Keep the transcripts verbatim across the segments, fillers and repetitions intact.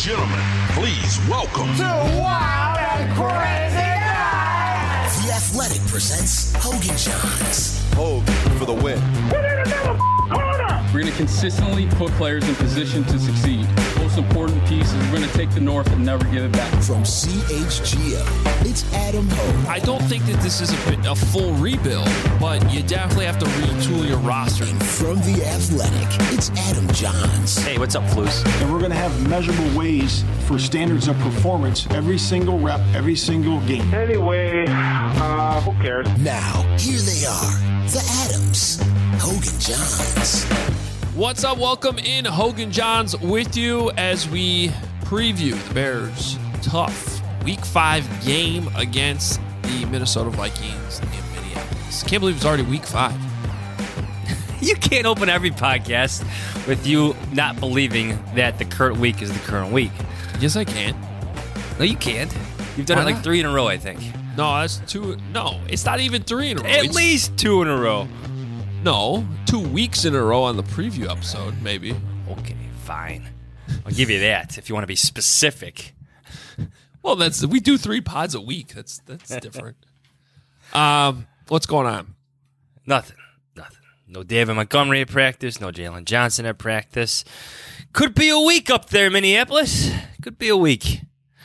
gentlemen, please welcome to Wild and Crazy Nights. The Athletic presents Hogan Johns. Hogan for the win. Put it in the corner. We're going to consistently put players in position to succeed. Most important piece is we're going to take the North and never give it back. From C H G O, it's Adam Hogue. I don't think that this is a, a full rebuild, but you definitely have to retool your roster. And from The Athletic, it's Adam Johns. Hey, what's up, Flus? And we're going to have measurable ways for standards of performance every single rep, every single game. Anyway, uh, who cares? Now, here they are, the Adams, Hogan Johns. What's up? Welcome in, Hogan Johns, with you as we preview the Bears' tough Week five game against the Minnesota Vikings in Minneapolis. Can't believe it's already Week five. You can't open every podcast with you not believing that the current week is the current week. Yes, I can. No, you can't. You've done Why it like not? three in a row, I think. No, that's two. No, it's not even three in a row. At It's- least two in a row. No, two weeks in a row on the preview episode, maybe. Okay, fine. I'll give you that if you want to be specific. Well, that's we do three pods a week. That's that's different. um, what's going on? Nothing. Nothing. No David Montgomery at practice. No Jalen Johnson at practice. Could be a week up there, Minneapolis. Could be a week.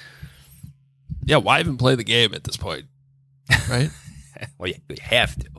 Yeah, why even play the game at this point? Right? Well, yeah, we have to.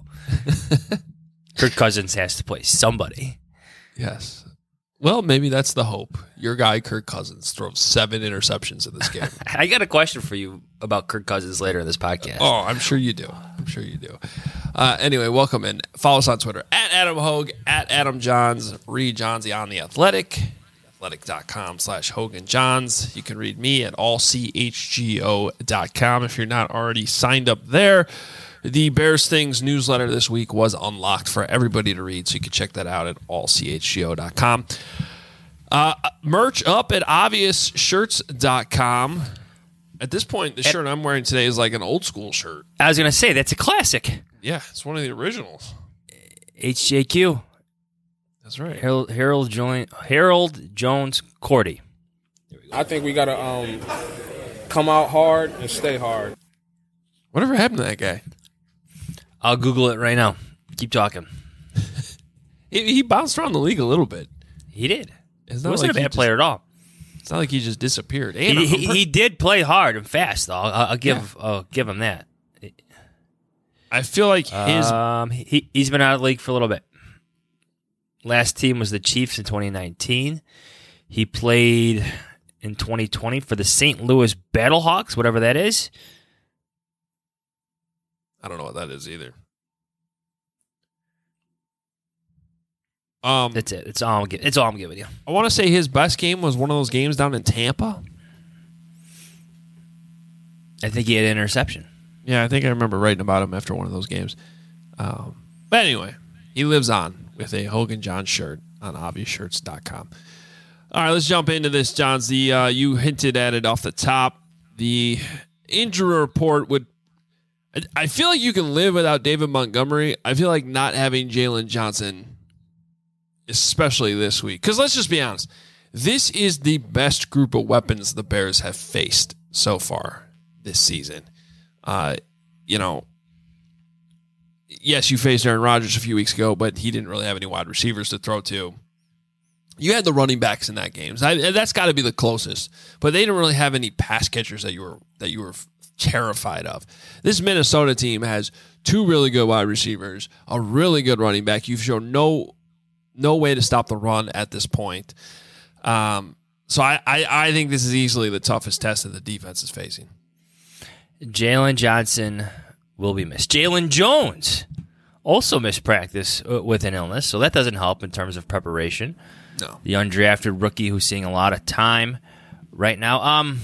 Kirk Cousins has to play somebody. Yes. Well, maybe that's the hope. Your guy, Kirk Cousins, throws seven interceptions in this game. I got a question for you about Kirk Cousins later in this podcast. Oh, I'm sure you do. I'm sure you do. Uh, anyway, welcome in. Follow us on Twitter, at Adam Hogue, at Adam Johns. Read Johnsy on The Athletic, athletic.com slash Hogan Johns. You can read me at all c h g o dot com if you're not already signed up there. The Bears Things newsletter this week was unlocked for everybody to read, so you can check that out at all c h g o dot com. Uh, merch up at obvious shirts dot com. At this point, the shirt I'm wearing today is like an old school shirt. I was going to say, that's a classic. Yeah, it's one of the originals. H J Q. That's right. Harold, Harold, Join, Harold Jones Cordy. I think we got to um, come out hard and stay hard. Whatever happened to that guy? I'll Google it right now. Keep talking. he, he bounced around the league a little bit. He did. It's He not wasn't like a he bad just- player at all. It's not like he just disappeared. And He, I'm he, pre- he did play hard and fast, though. I'll, I'll give I'll give him that. I feel like his Um, he, he's been out of the league for a little bit. Last team was the Chiefs in twenty nineteen. He played in twenty twenty for the Saint Louis Battlehawks, whatever that is. I don't know what that is either. Um, That's it. It's all I'm giving. It's all I'm giving you. I want to say his best game was one of those games down in Tampa. I think he had an interception. Yeah, I think I remember writing about him after one of those games. Um, but anyway, he lives on with a Hogan John shirt on obvious shirts dot com. All right, let's jump into this, Johns. The uh, you hinted at it off the top. The injury report would. I, I feel like you can live without David Montgomery. I feel like not having Jalen Johnson, especially this week. Because let's just be honest, this is the best group of weapons the Bears have faced so far this season. Uh, you know, yes, you faced Aaron Rodgers a few weeks ago, but he didn't really have any wide receivers to throw to. You had the running backs in that game. I, that's got to be the closest. But they didn't really have any pass catchers that you were that you were terrified of. This Minnesota team has two really good wide receivers, a really good running back. You've shown no no way to stop the run at this point. Um, so I, I, I think this is easily the toughest test that the defense is facing. Jalen Johnson will be missed. Jalen Jones also missed practice with an illness, so that doesn't help in terms of preparation. No. The undrafted rookie who's seeing a lot of time right now. Um,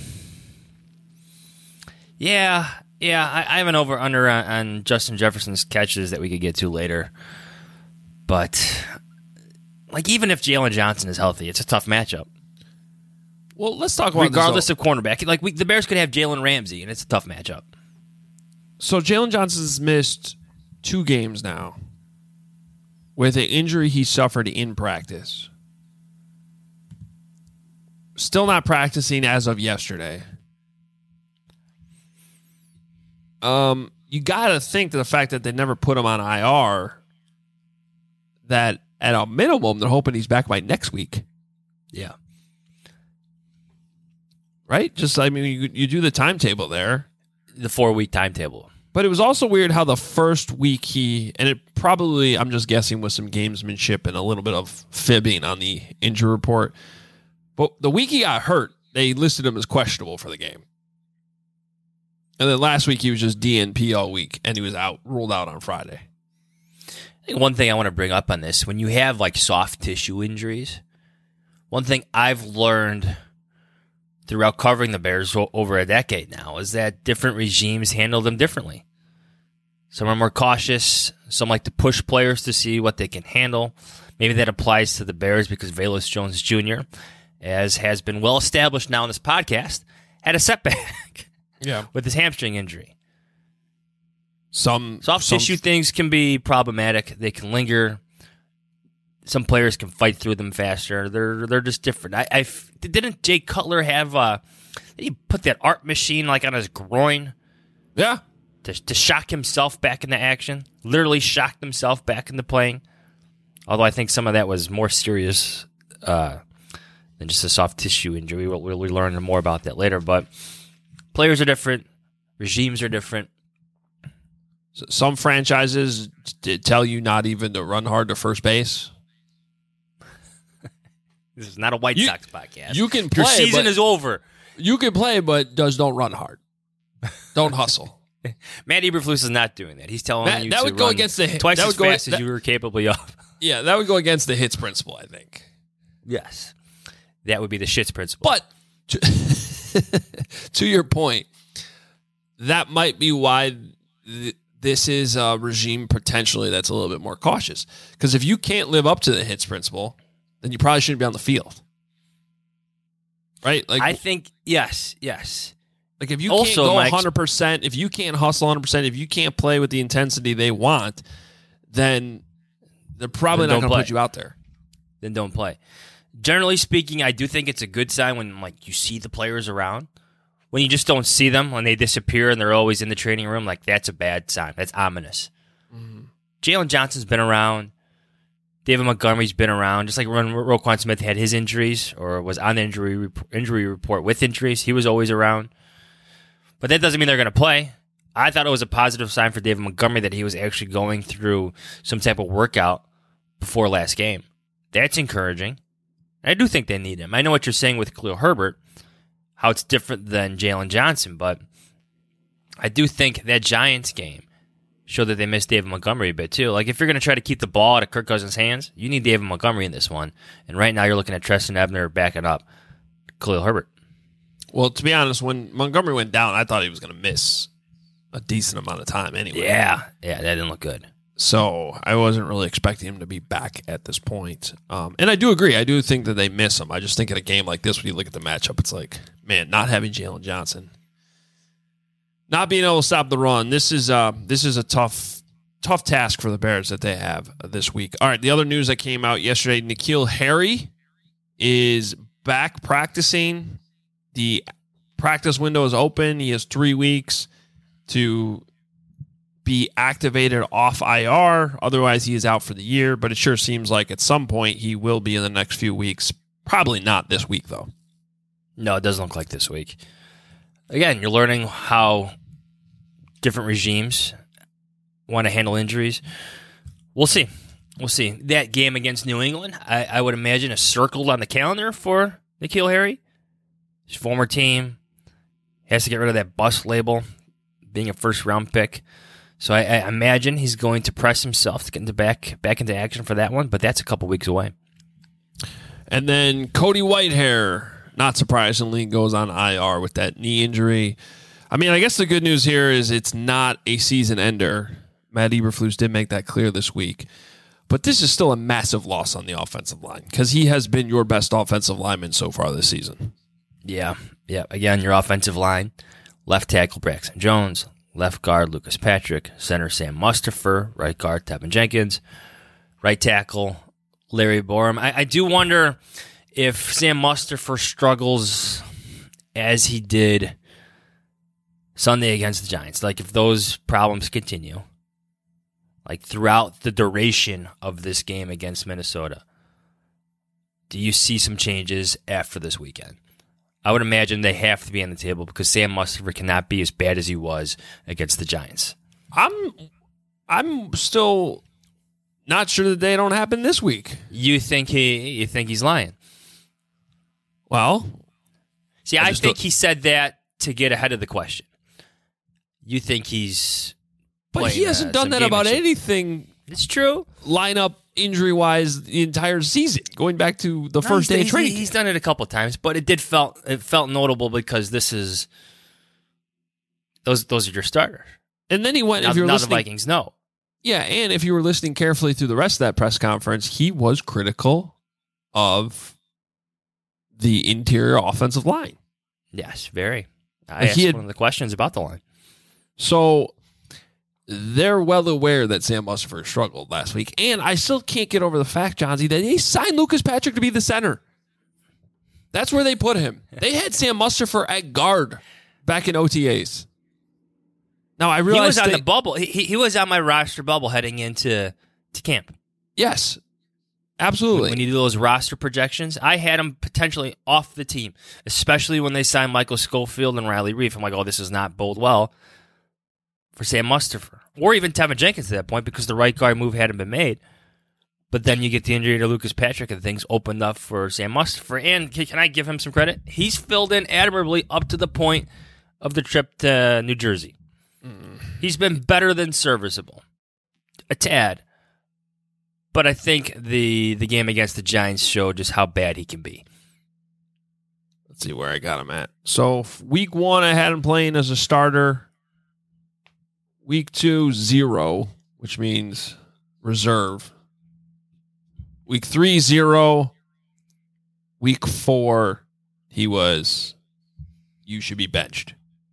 yeah, yeah, I, I have an over-under on, on Justin Jefferson's catches that we could get to later. But, like, even if Jalen Johnson is healthy, it's a tough matchup. Well, let's talk about regardless this, of cornerback. Like we, the Bears could have Jalen Ramsey, and it's a tough matchup. So Jalen Johnson's missed two games now with an injury he suffered in practice. still not practicing as of yesterday. Um, you got to think that the fact that they never put him on I R, that at a minimum, they're hoping he's back by next week. Yeah. Right? Just, I mean, you, you do the timetable there. The four-week timetable. But it was also weird how the first week he, and it probably, I'm just guessing, with some gamesmanship and a little bit of fibbing on the injury report. But the week he got hurt, they listed him as questionable for the game. And then last week he was just D N P all week, and he was out, ruled out on Friday. I think one thing I want to bring up on this, when you have like soft tissue injuries, one thing I've learned throughout covering the Bears over a decade now is that different regimes handle them differently. Some are more cautious. Some like to push players to see what they can handle. Maybe that applies to the Bears because Velus Jones Junior, as has been well established now in this podcast, had a setback yeah. with his hamstring injury. Some soft some, tissue things can be problematic. They can linger. Some players can fight through them faster. They're they're just different. I, I didn't Jay Cutler have uh did he put that art machine like on his groin? Yeah. To to shock himself back into action. Literally shocked himself back into playing. Although I think some of that was more serious uh, than just a soft tissue injury. We'll, we'll learn more about that later. But players are different. Regimes are different. Some franchises tell you not even to run hard to first base. This is not a White you, Sox podcast. You can play. Your season but, is over. You can play, but just don't run hard. Don't hustle. Matt Eberflus is not doing that. He's telling Matt, you that to would go run against the twice that as would go, fast that, as you were capable of. Yeah, that would go against the hits principle, I think. Yes. That would be the shits principle. But to, to your point, that might be why th- this is a regime potentially that's a little bit more cautious. Because if you can't live up to the hits principle, then you probably shouldn't be on the field. Right? Like I think, yes, yes. Like if you also, can't go Mike, one hundred percent, if you can't hustle one hundred percent, if you can't play with the intensity they want, then they're probably then not going to play. put you out there. Then don't play. Generally speaking, I do think it's a good sign when like you see the players around. When you just don't see them, when they disappear and they're always in the training room, like that's a bad sign. That's ominous. Mm-hmm. Jalen Johnson's been around. David Montgomery's been around. Just like when Roquan Smith had his injuries or was on the injury injury report with injuries, he was always around. But that doesn't mean they're going to play. I thought it was a positive sign for David Montgomery that he was actually going through some type of workout before last game. That's encouraging. I do think they need him. I know what you're saying with Khalil Herbert, how it's different than Jalen Johnson, but I do think that Giants game showed that they missed David Montgomery a bit too. Like if you're going to try to keep the ball out of Kirk Cousins' hands, you need David Montgomery in this one. And right now you're looking at Treston Ebner backing up Khalil Herbert. Well, to be honest, when Montgomery went down, I thought he was going to miss a decent amount of time anyway. Yeah, yeah, that didn't look good. So I wasn't really expecting him to be back at this point. Um, and I do agree. I do think that they miss him. I just think in a game like this, when you look at the matchup, it's like, man, not having Jalen Johnson, not being able to stop the run. This is uh, this is a tough, tough task for the Bears that they have this week. All right, the other news that came out yesterday, N'Keal Harry is back practicing. The practice window is open. He has three weeks to be activated off I R. Otherwise, he is out for the year. But it sure seems like at some point he will be in the next few weeks. Probably not this week, though. No, it doesn't look like this week. Again, you're learning how different regimes want to handle injuries. We'll see. We'll see. That game against New England, I, I would imagine, is circled on the calendar for N'Keal Harry. His former team has to get rid of that bust label, being a first-round pick. So I, I imagine he's going to press himself to get into back back into action for that one, but that's a couple weeks away. And then Cody Whitehair, not surprisingly, goes on I R with that knee injury. I mean, I guess the good news here is it's not a season ender. Matt Eberflus did make that clear this week. But this is still a massive loss on the offensive line because he has been your best offensive lineman so far this season. Yeah, yeah. Again, your offensive line, left tackle Braxton Jones, left guard Lucas Patrick, center Sam Mustipher, right guard Tevin Jenkins, right tackle Larry Borum. I, I do wonder if Sam Mustipher struggles as he did Sunday against the Giants, like if those problems continue, like throughout the duration of this game against Minnesota, do you see some changes after this weekend? I would imagine they have to be on the table because Sam Mustipher cannot be as bad as he was against the Giants. I'm I'm still not sure that they don't happen this week. You think he you think he's lying? Well, see, I I, just think don't- he said that to get ahead of the question. You think he's but he playing, hasn't uh, done some that about gamemanship. anything It's true. lineup injury-wise the entire season, going back to the No, first he's- day of he's, training. He's done it a couple times, but it did felt it felt notable because this is those those are your starters. And then he went, Now, if you were now the listening, Vikings know. yeah, and if you were listening carefully through the rest of that press conference, he was critical of the interior offensive line. Yes, very. I Like asked he had- one of the questions about the line. So they're well aware that Sam Mustipher struggled last week. And I still can't get over the fact, Johnsy, that they signed Lucas Patrick to be the center. That's where they put him. They had Sam Mustipher at guard back in O T As. Now, I He realize was on they- the bubble. He, he he was on my roster bubble heading into to camp. Yes, absolutely. When you do those roster projections, I had him potentially off the team, especially when they signed Michael Schofield and Riley Reef. I'm like, oh, this does not bode well for Sam Mustipher. Or even Tevin Jenkins at that point because the right guard move hadn't been made. But then you get the injury to Lucas Patrick and things opened up for Sam Mustipher. And can can I give him some credit? He's filled in admirably up to the point of the trip to New Jersey. He's been better than serviceable. A tad. But I think the the game against the Giants showed just how bad he can be. Let's see where I got him at. So week one, I had him playing as a starter. Week two, zero, which means reserve. Week three, zero. Week four, he was, you should be benched.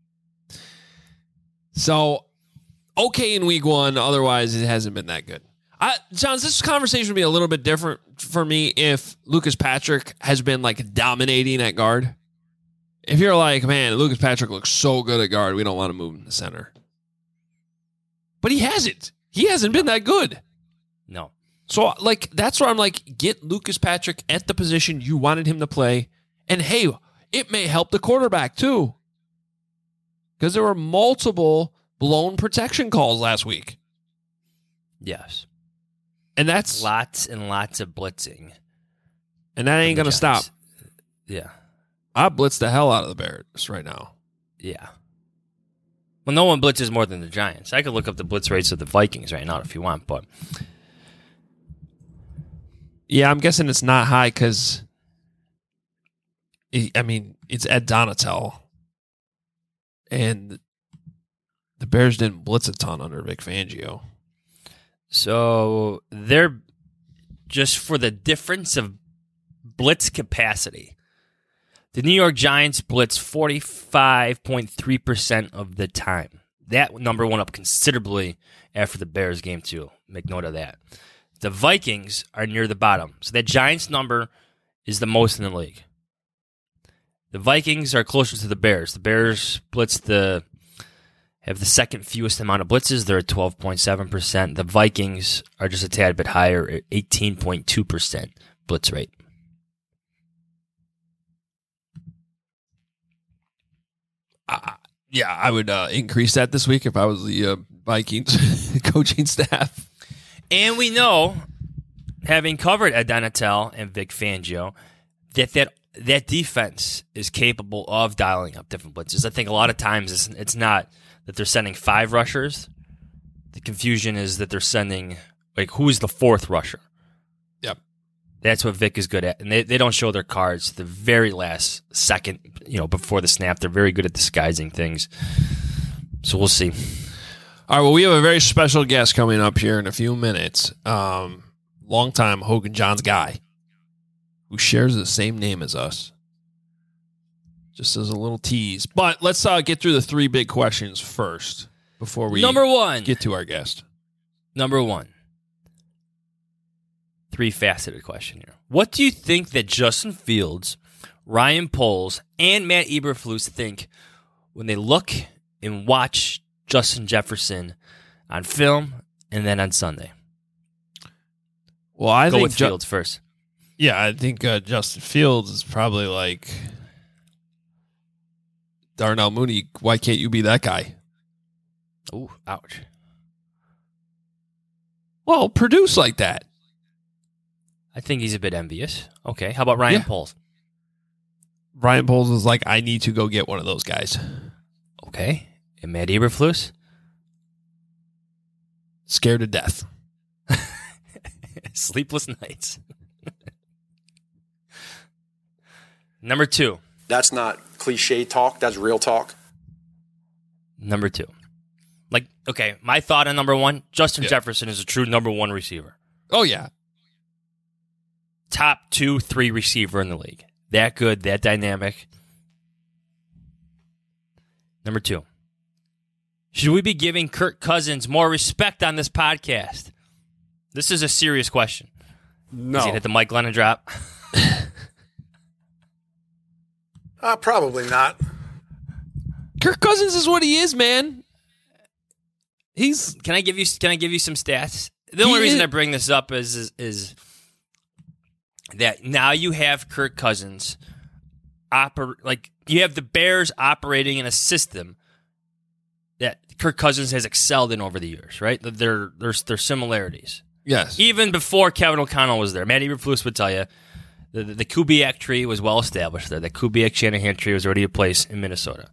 So, okay in week one, otherwise it hasn't been that good. I, Johns, this conversation would be a little bit different for me if Lucas Patrick has been like dominating at guard. If you're like, man, Lucas Patrick looks so good at guard, we don't want to move him to center. But he hasn't. He hasn't been that good. No. So, like, that's where I'm like, get Lucas Patrick at the position you wanted him to play. And hey, it may help the quarterback too. Because there were multiple blown protection calls last week. Yes. And that's Lots and lots of blitzing. and that ain't from gonna the stop. Giants. Yeah. I blitz the hell out of the Bears right now. Yeah. Well, no one blitzes more than the Giants. I could look up the blitz rates of the Vikings right now if you want, but Yeah, I'm guessing it's not high because, I mean, it's Ed Donatel. And the Bears didn't blitz a ton under Vic Fangio. so they're just for the difference of blitz capacity. The New York Giants blitz forty-five point three percent of the time. That number went up considerably after the Bears game, too. Make note of that. The Vikings are near the bottom. So that Giants number is the most in the league. The Vikings are closer to the Bears. The Bears blitz the have the second fewest amount of blitzes. They're at twelve point seven percent. The Vikings are just a tad bit higher at eighteen point two percent blitz rate. Uh, yeah, I would uh, increase that this week if I was the uh, Vikings coaching staff. And we know, having covered Ed Donatel and Vic Fangio, that that that defense is capable of dialing up different blitzes. I think a lot of times it's, it's not that they're sending five rushers. The confusion is that they're sending, like, who's the fourth rusher? Yep. That's what Vic is good at. And they, they don't show their cards the very last second, you know, before the snap. They're very good at disguising things. So we'll see. All right, well, we have a very special guest coming up here in a few minutes. Um, longtime Hogan Johns guy who shares the same name as us. Just as a little tease. But let's uh, get through the three big questions first before we Number one. get to our guest. Number one. three-faceted question here. What do you think that Justin Fields, Ryan Poles, and Matt Eberflus think when they look and watch Justin Jefferson on film and then on Sunday? Well, I Go think with Ju- Fields first. Yeah, I think uh, Justin Fields is probably like Darnell Mooney. Why can't you be that guy? Ooh, ouch. Well, produce like that. I think he's a bit envious. Okay, how about Ryan Yeah. Poles? Ryan Poles is like, I need to go get one of those guys. Okay, and Matt Eberflus? Scared to death. Sleepless nights. Number two. That's not cliche talk. That's real talk. Number two. Like, okay, my thought on number one, Justin Yeah. Jefferson is a true number one receiver. Oh, yeah. Top two, three receiver in the league. That good, that dynamic. Number two. Should we be giving Kirk Cousins more respect on this podcast? This is a serious question. No. Is he hit the Mike Glennon drop? Uh, probably not. Kirk Cousins is what he is, man. He's Can I give you Can I give you some stats? The only He reason is- I bring this up is, is is that now you have Kirk Cousins oper- like you have the Bears operating in a system that Kirk Cousins has excelled in over the years, right? There there's there's similarities. yes. Even before Kevin O'Connell was there, Matt Eberflus would tell you the, the, the Kubiak tree was well established there. The Kubiak-Shanahan tree was already in place in Minnesota.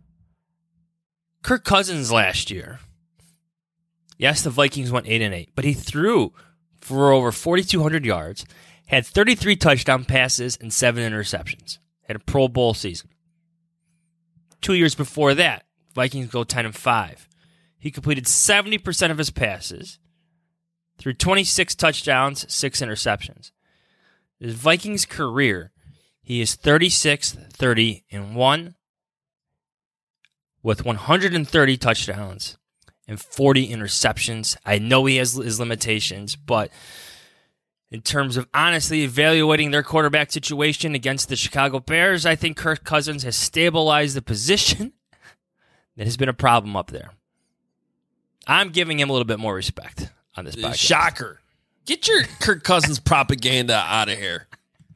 Kirk Cousins last year, yes, the Vikings went eight and eight, but he threw for over forty-two hundred yards, had thirty-three touchdown passes and seven interceptions. Had a Pro Bowl season. Two years before that, Vikings go ten and five. He completed seventy percent of his passes, threw twenty-six touchdowns, six interceptions. His Vikings career, he is thirty-six, thirty, and one with one hundred thirty touchdowns and forty interceptions. I know he has his limitations, but in terms of honestly evaluating their quarterback situation against the Chicago Bears, I think Kirk Cousins has stabilized the position that has been a problem up there. I'm giving him a little bit more respect on this podcast. Shocker. Get your Kirk Cousins propaganda out of here.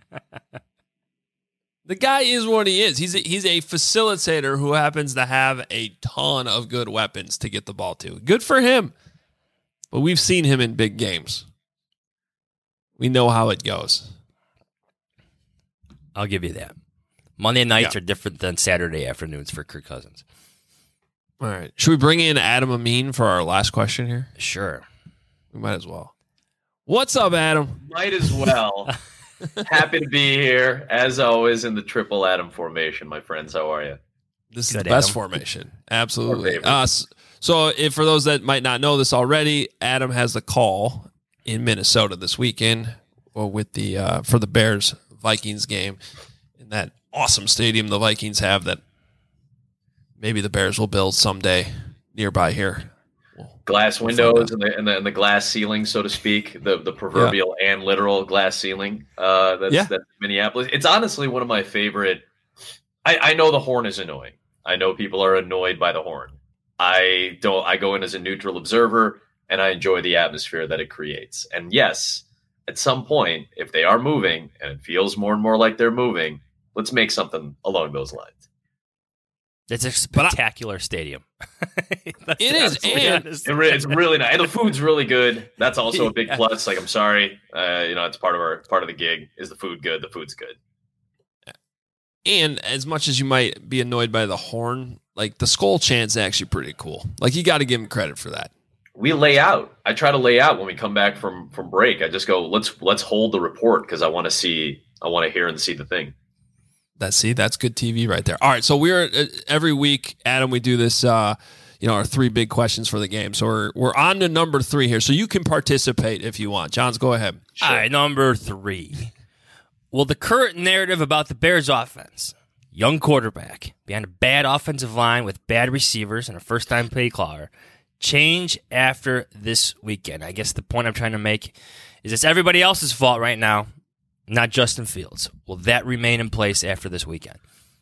The guy is what he is. He's a, he's a facilitator who happens to have a ton of good weapons to get the ball to. Good for him. But we've seen him in big games. We know how it goes. I'll give you that. Monday nights Yeah. are different than Saturday afternoons for Kirk Cousins. All right. Should we bring in Adam Amin for our last question here? Sure. We might as well. What's up, Adam? Might as well. Happy to be here, as always, in the triple Adam formation, my friends. How are you? This is Good, the best Adam. formation. Absolutely. favorite. Uh, s- so, if for those that might not know this already, Adam has the call in Minnesota this weekend well, with the uh, for the Bears Vikings game in that awesome stadium the Vikings have that maybe the Bears will build someday nearby here. Glass We'll find windows out. and the, and the and the glass ceiling, so to speak, the the proverbial and literal glass ceiling. Uh, that's Yeah. that's Minneapolis. It's honestly one of my favorite. I, I know the horn is annoying. I know people are annoyed by the horn. I don't. I go in as a neutral observer, and I enjoy the atmosphere that it creates. And yes, at some point, if they are moving and it feels more and more like they're moving, let's make something along those lines. It's a spectacular stadium. It is, and It re- it's really nice. And the food's really good. That's also a big Yeah. plus. Like, I'm sorry, uh, you know, it's part of our part of the gig. Is the food good? The food's good. And as much as you might be annoyed by the horn, like the skull chant's actually pretty cool. Like you got to give him credit for that. We lay out. I try to lay out when we come back from from break. I just go, let's let's hold the report because I want to see, I want to hear and see the thing. That see, that's good T V right there. All right, so we're uh, every week, Adam. We do this, uh, you know, our three big questions for the game. So we're we're on to number three here. So you can participate if you want. Johns, go ahead. All right, number three. Will the current narrative about the Bears offense, young quarterback, behind a bad offensive line with bad receivers and a first-time play caller, change after this weekend? I guess the point I'm trying to make is it's everybody else's fault right now, not Justin Fields. Will that remain in place after this weekend?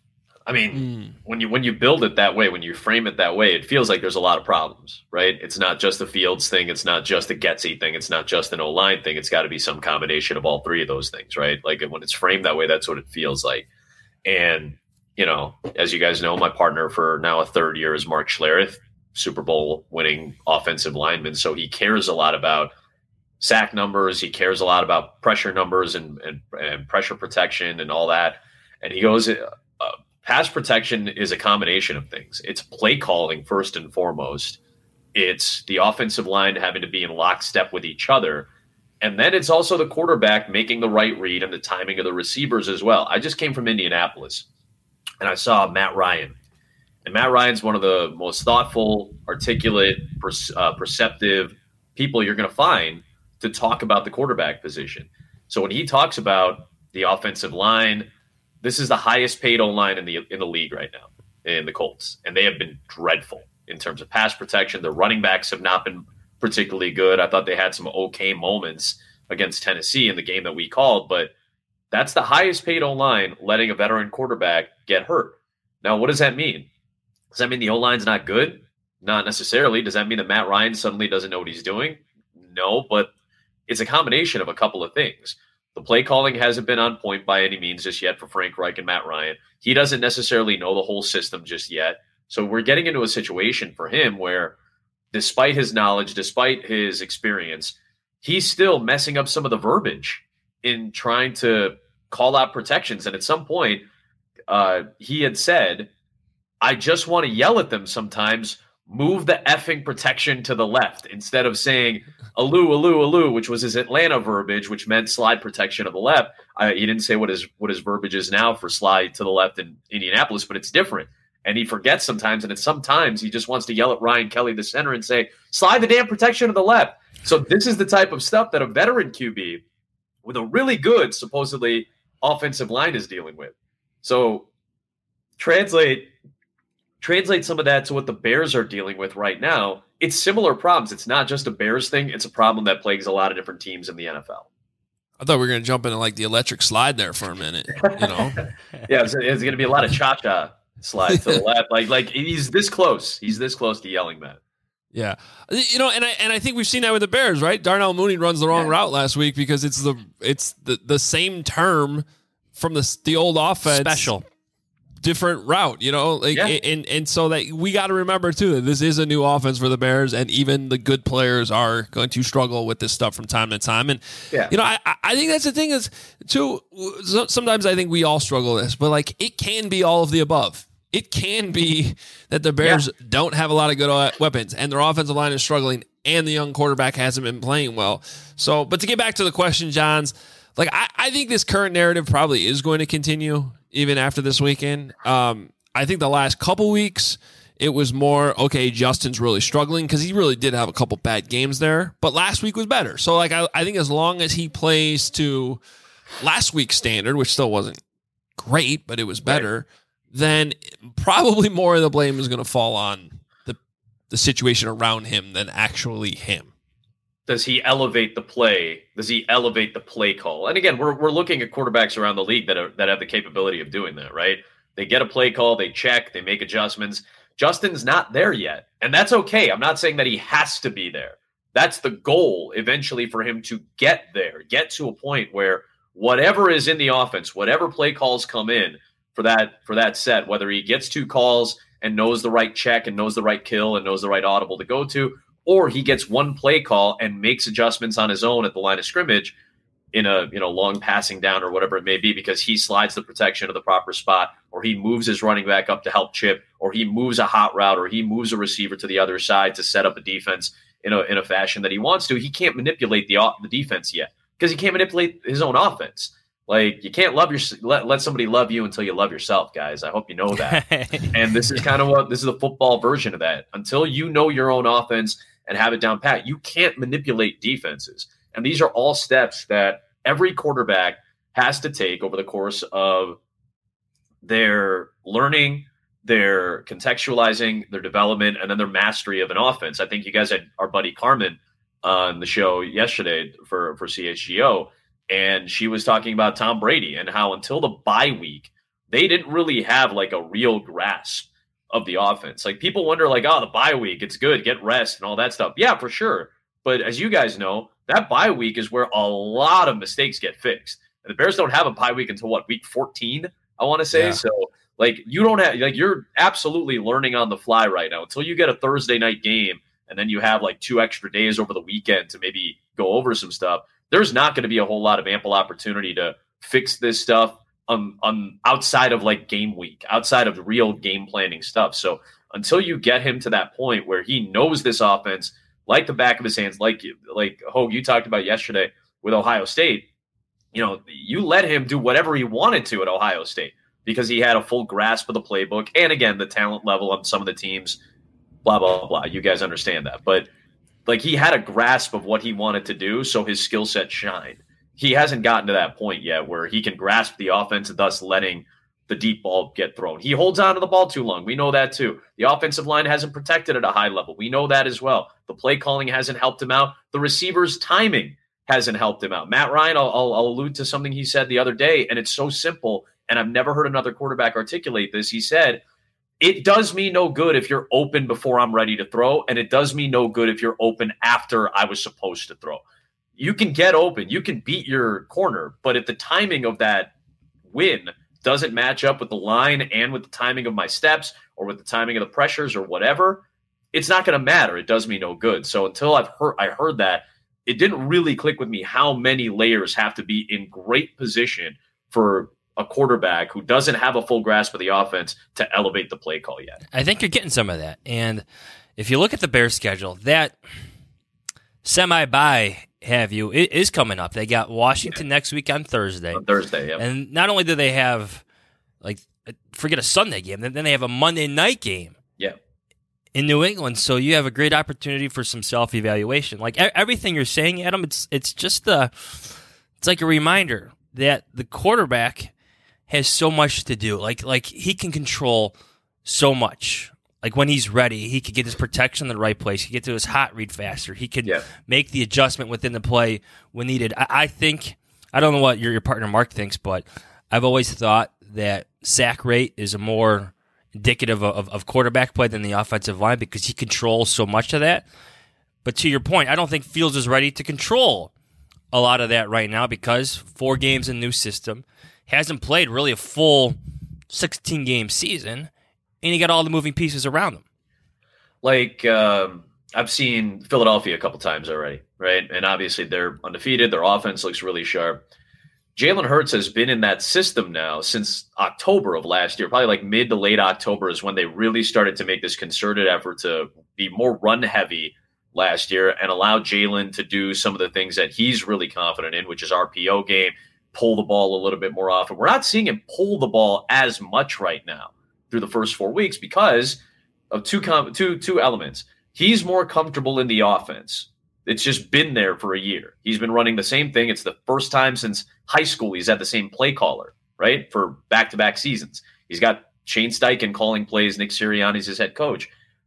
I mean, mm. when you when you build it that way, when you frame it that way, it feels like there's a lot of problems, right? It's not just a Fields thing. It's not just a Getsy thing. It's not just an O-line thing. It's got to be some combination of all three of those things, right? Like when it's framed that way, that's what it feels like. And, you know, as you guys know, my partner for now a third year is Mark Schlereth, Super Bowl winning offensive lineman. So he cares a lot about sack numbers. He cares a lot about pressure numbers and, and, and pressure protection and all that. And he goes, uh, pass protection is a combination of things. It's play calling first and foremost. It's the offensive line having to be in lockstep with each other. And then it's also the quarterback making the right read and the timing of the receivers as well. I just came from Indianapolis and I saw Matt Ryan. And Matt Ryan's one of the most thoughtful, articulate, per, uh, perceptive people you're going to find to talk about the quarterback position. So when he talks about the offensive line, this is the highest paid O-line in the in the league right now in the Colts, and they have been dreadful in terms of pass protection. The running backs have not been particularly good. I thought they had some okay moments against Tennessee in the game that we called, but that's the highest paid O-line letting a veteran quarterback get hurt. Now, what does that mean? Does that mean the O-line's not good? Not necessarily. Does that mean that Matt Ryan suddenly doesn't know what he's doing? No, but it's a combination of a couple of things. The play calling hasn't been on point by any means just yet for Frank Reich and Matt Ryan. He doesn't necessarily know the whole system just yet. So we're getting into a situation for him where despite his knowledge, despite his experience, he's still messing up some of the verbiage in trying to call out protections. And at some point, uh, he had said, I just want to yell at them sometimes, move the effing protection to the left instead of saying aloo, aloo, aloo, which was his Atlanta verbiage, which meant slide protection of the left. I, he didn't say what his what his verbiage is now for slide to the left in Indianapolis, but it's different. And he forgets sometimes, and it's sometimes he just wants to yell at Ryan Kelly, the center, and say, slide the damn protection to the left. So this is the type of stuff that a veteran Q B with a really good, supposedly, offensive line is dealing with. So translate Translate some of that to what the Bears are dealing with right now. It's similar problems. It's not just a Bears thing. It's a problem that plagues a lot of different teams in the N F L. I thought we were going to jump into like the electric slide there for a minute. You know, yeah, it's, it's going to be a lot of cha-cha slides to the left. Like, like he's this close. He's this close to yelling that. Yeah, you know, and I and I think we've seen that with the Bears, right? Darnell Mooney runs the wrong yeah. route last week because it's the it's the, the same term from the the old offense. Special. Different route, you know, like, yeah. and and so that we got to remember too that this is a new offense for the Bears, and even the good players are going to struggle with this stuff from time to time. And yeah. you know, I I think that's the thing is too. Sometimes I think we all struggle with this, but like it can be all of the above. It can be that the Bears yeah. don't have a lot of good weapons, and their offensive line is struggling, and the young quarterback hasn't been playing well. So, but to get back to the question, Johns, like I, I think this current narrative probably is going to continue even after this weekend. Um, I think the last couple weeks, it was more, okay, Justin's really struggling because he really did have a couple bad games there. But last week was better. So, like, I, I think as long as he plays to last week's standard, which still wasn't great, but it was better, right. then probably more of the blame is going to fall on the the situation around him than actually him. Does he elevate the play? Does he elevate the play call? And again, we're we're looking at quarterbacks around the league that are that have the capability of doing that, right? They get a play call, they check, they make adjustments. Justin's not there yet, and that's okay. I'm not saying that he has to be there. That's the goal eventually for him to get there, get to a point where whatever is in the offense, whatever play calls come in for that for that set, whether he gets two calls and knows the right check and knows the right kill and knows the right audible to go to, or he gets one play call and makes adjustments on his own at the line of scrimmage in a you know long passing down or whatever it may be, because he slides the protection to the proper spot, or he moves his running back up to help chip, or he moves a hot route, or he moves a receiver to the other side to set up a defense in a in a fashion that he wants to. He can't manipulate the the defense yet because he can't manipulate his own offense. Like, you can't love your let, let somebody love you until you love yourself, guys. I hope you know that. And this is kind of what this is the football version of that. Until you know your own offense and have it down pat, you can't manipulate defenses. And these are all steps that every quarterback has to take over the course of their learning their contextualizing, their development, and then their mastery of an offense. I think you guys had our buddy Carmen on the show yesterday for, for C H G O, and she was talking about Tom Brady and how until the bye week, they didn't really have like a real grasp of the offense. Like people wonder like, oh, the bye week, it's good, get rest and all that stuff. Yeah, for sure. But as you guys know, that bye week is where a lot of mistakes get fixed. And the Bears don't have a bye week until what, week fourteen, I want to say. Yeah. So like you don't have, like you're absolutely learning on the fly right now until you get a Thursday night game. And then you have like two extra days over the weekend to maybe go over some stuff. There's not going to be a whole lot of ample opportunity to fix this stuff on, on outside of like game week, outside of real game planning stuff. So until you get him to that point where he knows this offense like the back of his hands, like like Hogue, you talked about yesterday with Ohio State, you know, you let him do whatever he wanted to at Ohio State because he had a full grasp of the playbook. And again, the talent level on some of the teams, blah, blah, blah. You guys understand that. But like he had a grasp of what he wanted to do, so his skill set shined. He hasn't gotten to that point yet where he can grasp the offense, thus letting the deep ball get thrown. He holds on to the ball too long. We know that too. The offensive line hasn't protected at a high level. We know that as well. The play calling hasn't helped him out. The receivers' timing hasn't helped him out. Matt Ryan, I'll, I'll, I'll allude to something he said the other day, and it's so simple, and I've never heard another quarterback articulate this. He said, it does me no good if you're open before I'm ready to throw, and it does me no good if you're open after I was supposed to throw. You can get open. You can beat your corner, but if the timing of that win doesn't match up with the line and with the timing of my steps or with the timing of the pressures or whatever, it's not going to matter. It does me no good. So until I've heard, I heard that, it didn't really click with me how many layers have to be in great position for a quarterback who doesn't have a full grasp of the offense to elevate the play call yet. I think you're getting some of that. And if you look at the Bears schedule, that semi-bye, have you, it is coming up. They got Washington yeah. next week on Thursday. On Thursday, yeah. And not only do they have, like, forget a Sunday game, then they have a Monday night game. Yeah. In New England, so you have a great opportunity for some self-evaluation. Like everything you're saying, Adam, it's it's just the, it's like a reminder that the quarterback has so much to do. Like like he can control so much. Like when he's ready, he could get his protection in the right place. He can get to his hot read faster. He can yeah. make the adjustment within the play when needed. I, I think, I don't know what your, your partner Mark thinks, but I've always thought that sack rate is a more indicative of, of, of quarterback play than the offensive line because he controls so much of that. But to your point, I don't think Fields is ready to control a lot of that right now because four games in new system, hasn't played really a full sixteen-game season, and he got all the moving pieces around him. Like, um, I've seen Philadelphia a couple times already, right? And obviously they're undefeated. Their offense looks really sharp. Jalen Hurts has been in that system now since October of last year, probably like mid to late October is when they really started to make this concerted effort to be more run-heavy last year and allow Jalen to do some of the things that he's really confident in, which is R P O game, pull the ball a little bit more often. We're not seeing him pull the ball as much right now through the first four weeks because of two com- two two elements. He's more comfortable in the offense. It's just been there for a year. He's been running the same thing. It's the first time since high school he's had the same play caller, right, for back-to-back seasons. He's got Shane Steichen calling plays. Nick Sirianni's his head coach.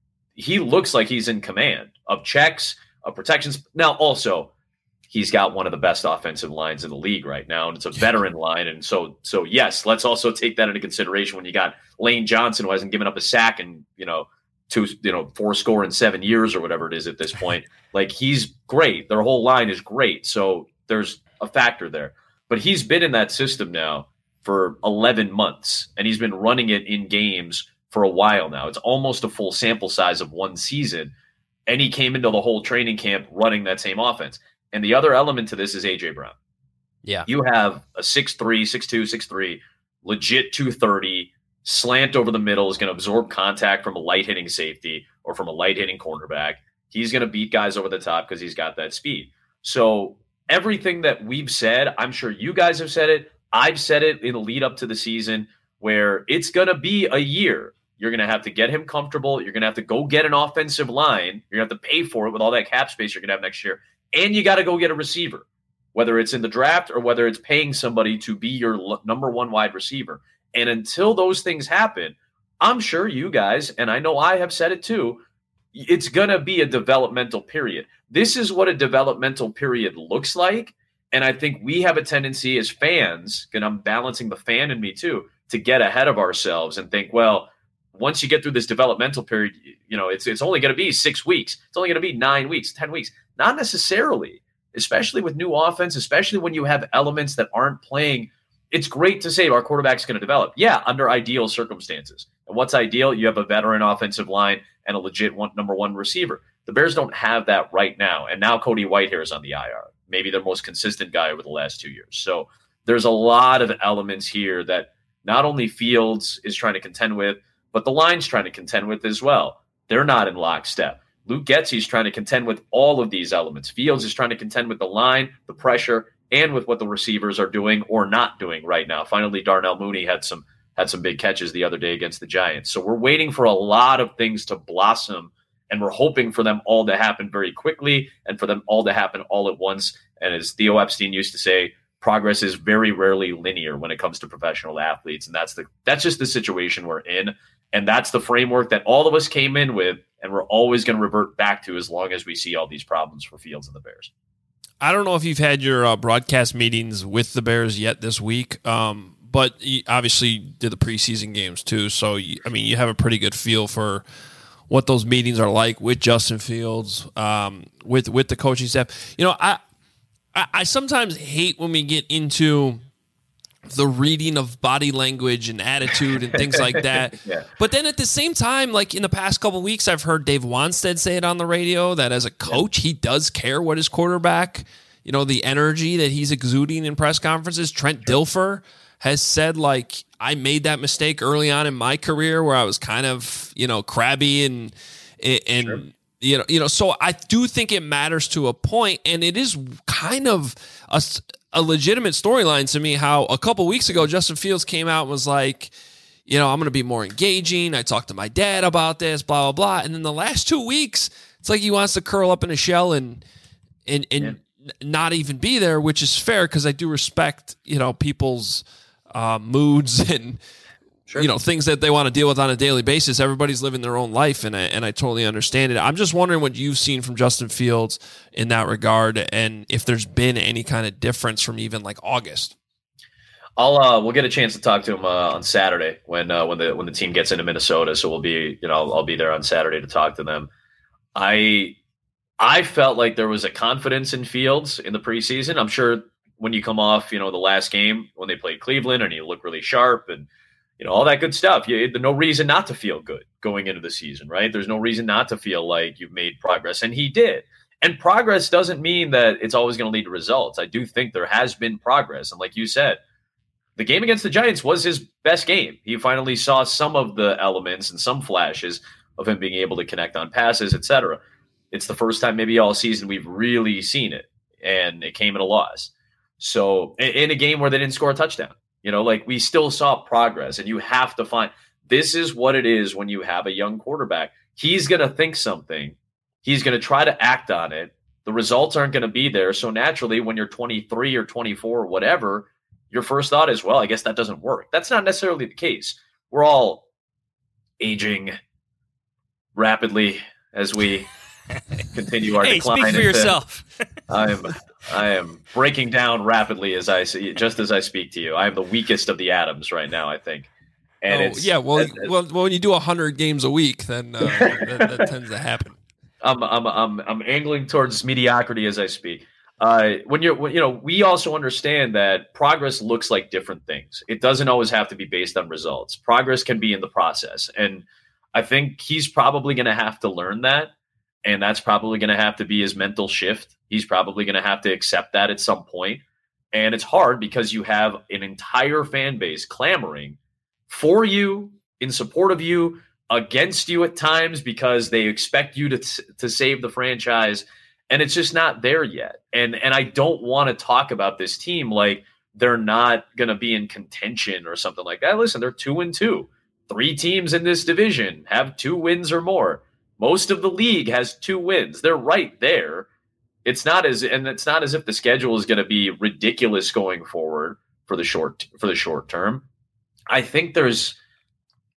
He looks like he's in command of checks, of protections. Now, also, he's got one of the best offensive lines in the league right now, and it's a veteran line. And so, so yes, let's also take that into consideration when you got Lane Johnson, who hasn't given up a sack in, you know, two, you know, four score in seven years or whatever it is at this point. Like, he's great. Their whole line is great. So there's a factor there. But he's been in that system now for eleven months, and he's been running it in games for a while now. It's almost a full sample size of one season. And he came into the whole training camp running that same offense. And the other element to this is A J Brown. Yeah. You have a six three, six two, six three, legit two thirty, slant over the middle, is going to absorb contact from a light-hitting safety or from a light-hitting cornerback. He's going to beat guys over the top because he's got that speed. So everything that we've said, I'm sure you guys have said it. I've said it in the lead up to the season where it's going to be a year. You're going to have to get him comfortable. You're going to have to go get an offensive line. You're going to have to pay for it with all that cap space you're going to have next year. And you got to go get a receiver, whether it's in the draft or whether it's paying somebody to be your l- number one wide receiver. And until those things happen, I'm sure you guys, and I know I have said it too, it's going to be a developmental period. This is what a developmental period looks like. And I think we have a tendency as fans, and I'm balancing the fan in me too, to get ahead of ourselves and think, well, once you get through this developmental period, you know, it's it's only going to be six weeks. It's only going to be nine weeks, ten weeks. Not necessarily, especially with new offense, especially when you have elements that aren't playing. It's great to say our quarterback's going to develop. Yeah, under ideal circumstances. And what's ideal? You have a veteran offensive line and a legit one, number one receiver. The Bears don't have that right now. And now Cody Whitehair is on the I R. Maybe their most consistent guy over the last two years. So there's a lot of elements here that not only Fields is trying to contend with, but the line's trying to contend with as well. They're not in lockstep. Luke Getsy's trying to contend with all of these elements. Fields is trying to contend with the line, the pressure, and with what the receivers are doing or not doing right now. Finally, Darnell Mooney had some had some big catches the other day against the Giants. So we're waiting for a lot of things to blossom, and we're hoping for them all to happen very quickly and for them all to happen all at once. And as Theo Epstein used to say, progress is very rarely linear when it comes to professional athletes. And that's the that's just the situation we're in. And that's the framework that all of us came in with, and we're always going to revert back to as long as we see all these problems for Fields and the Bears. I don't know if you've had your uh, broadcast meetings with the Bears yet this week, um, but you obviously did the preseason games too. So, you, I mean, you have a pretty good feel for what those meetings are like with Justin Fields, um, with with the coaching staff. You know, I, I I sometimes hate when we get into the reading of body language and attitude and things like that. Yeah. But then at the same time, like in the past couple of weeks, I've heard Dave Wanstead say it on the radio that as a coach, yeah. he does care what his quarterback, you know, the energy that he's exuding in press conferences. Trent sure. Dilfer has said, like, I made that mistake early on in my career where I was kind of, you know, crabby and, and, sure. you know, you know, so I do think it matters to a point, and it is kind of a, a legitimate storyline to me how a couple weeks ago Justin Fields came out and was like, you know, I'm going to be more engaging. I talked to my dad about this, blah, blah, blah. And then the last two weeks, it's like he wants to curl up in a shell and and and yeah. not even be there, which is fair because I do respect, you know, people's uh, moods and, sure. you know, things that they want to deal with on a daily basis. Everybody's living their own life, and I, and I totally understand it. I'm just wondering what you've seen from Justin Fields in that regard, and if there's been any kind of difference from even like August. I'll uh, we'll get a chance to talk to him uh, on Saturday when uh, when the when the team gets into Minnesota. So we'll be you know I'll, I'll be there on Saturday to talk to them. I I felt like there was a confidence in Fields in the preseason. I'm sure when you come off you know the last game when they played Cleveland and you look really sharp and you know all that good stuff. You, there's no reason not to feel good going into the season, right? There's no reason not to feel like you've made progress, and he did. And progress doesn't mean that it's always going to lead to results. I do think there has been progress, and like you said, the game against the Giants was his best game. He finally saw some of the elements and some flashes of him being able to connect on passes, et cetera. It's the first time maybe all season we've really seen it, and it came at a loss. So in a game where they didn't score a touchdown, you know, like we still saw progress, and you have to find this is what it is when you have a young quarterback. He's going to think something. He's going to try to act on it. The results aren't going to be there. So naturally, when you're twenty-three or twenty-four or whatever, your first thought is, well, I guess that doesn't work. That's not necessarily the case. We're all aging rapidly as we continue our hey, decline. Speak for into, yourself. I am I am breaking down rapidly as I see, just as I speak to you. I am the weakest of the atoms right now, I think. And oh, it's yeah, well, it's, well, well, when you do a hundred games a week, then uh, that, that tends to happen. I'm I'm I'm I'm angling towards mediocrity as I speak. Uh, when you're, when, you know, we also understand that progress looks like different things. It doesn't always have to be based on results. Progress can be in the process, and I think he's probably going to have to learn that, and that's probably going to have to be his mental shift. He's probably going to have to accept that at some point, and it's hard because you have an entire fan base clamoring for you, in support of you, against you at times because they expect you to to save the franchise. And it's just not there yet. And and I don't want to talk about this team like they're not going to be in contention or something like that. Listen, they're two and two. Three teams in this division have two wins or more. Most of the league has two wins. They're right there. It's not as and it's not as if the schedule is going to be ridiculous going forward for the short for the short term. I think there's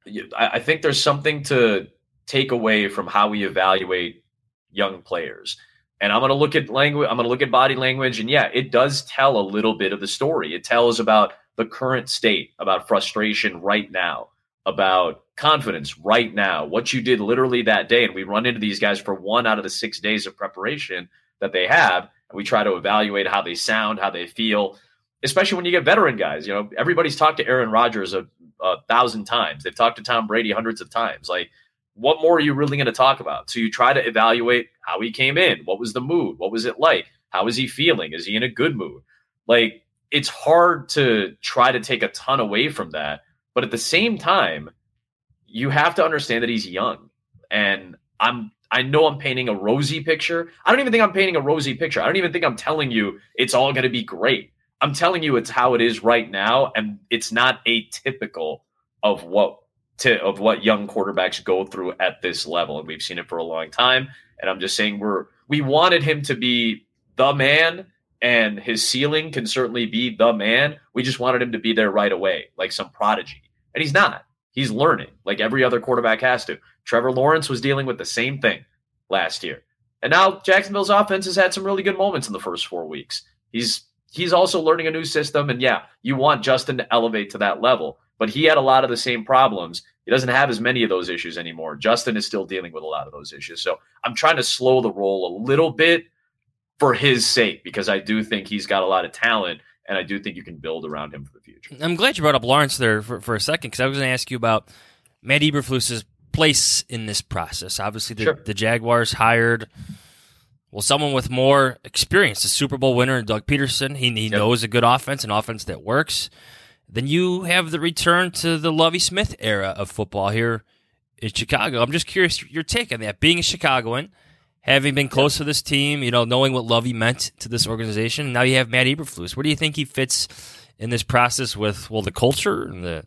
I, I think there's something to take away from how we evaluate young players. And I'm going to look at language. I'm going to look at body language. And yeah, it does tell a little bit of the story. It tells about the current state, about frustration right now, about confidence right now, what you did literally that day. And we run into these guys for one out of the six days of preparation that they have. And we try to evaluate how they sound, how they feel, especially when you get veteran guys. You know, everybody's talked to Aaron Rodgers a, a thousand times. They've talked to Tom Brady hundreds of times. Like, what more are you really going to talk about? So you try to evaluate how he came in. What was the mood? What was it like? How is he feeling? Is he in a good mood? Like, it's hard to try to take a ton away from that. But at the same time, you have to understand that he's young. And I'm, I know I'm painting a rosy picture. I don't even think I'm painting a rosy picture. I don't even think I'm telling you it's all going to be great. I'm telling you it's how it is right now. And it's not atypical of what to of what young quarterbacks go through at this level. And we've seen it for a long time. And I'm just saying we're we wanted him to be the man, and his ceiling can certainly be the man. We just wanted him to be there right away, like some prodigy. And he's not. He's learning like every other quarterback has to. Trevor Lawrence was dealing with the same thing last year. And now Jacksonville's offense has had some really good moments in the first four weeks. He's he's also learning a new system. And yeah, you want Justin to elevate to that level. But he had a lot of the same problems. He doesn't have as many of those issues anymore. Justin is still dealing with a lot of those issues. So I'm trying to slow the roll a little bit for his sake, because I do think he's got a lot of talent, and I do think you can build around him for the future. I'm glad you brought up Lawrence there for, for a second, because I was going to ask you about Matt Eberflus's place in this process. Obviously, the, sure. the Jaguars hired, well, someone with more experience, a Super Bowl winner, Doug Peterson. He, he yep. knows a good offense, an offense that works. Then you have the return to the Lovie Smith era of football here in Chicago. I'm just curious your take on that. Being a Chicagoan, having been close yep. to this team, you know, knowing what Lovie meant to this organization, now you have Matt Eberflus. Where do you think he fits in this process with, well, the culture and the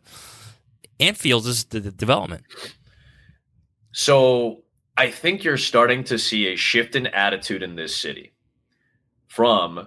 and Fields' the, the development? So I think you're starting to see a shift in attitude in this city from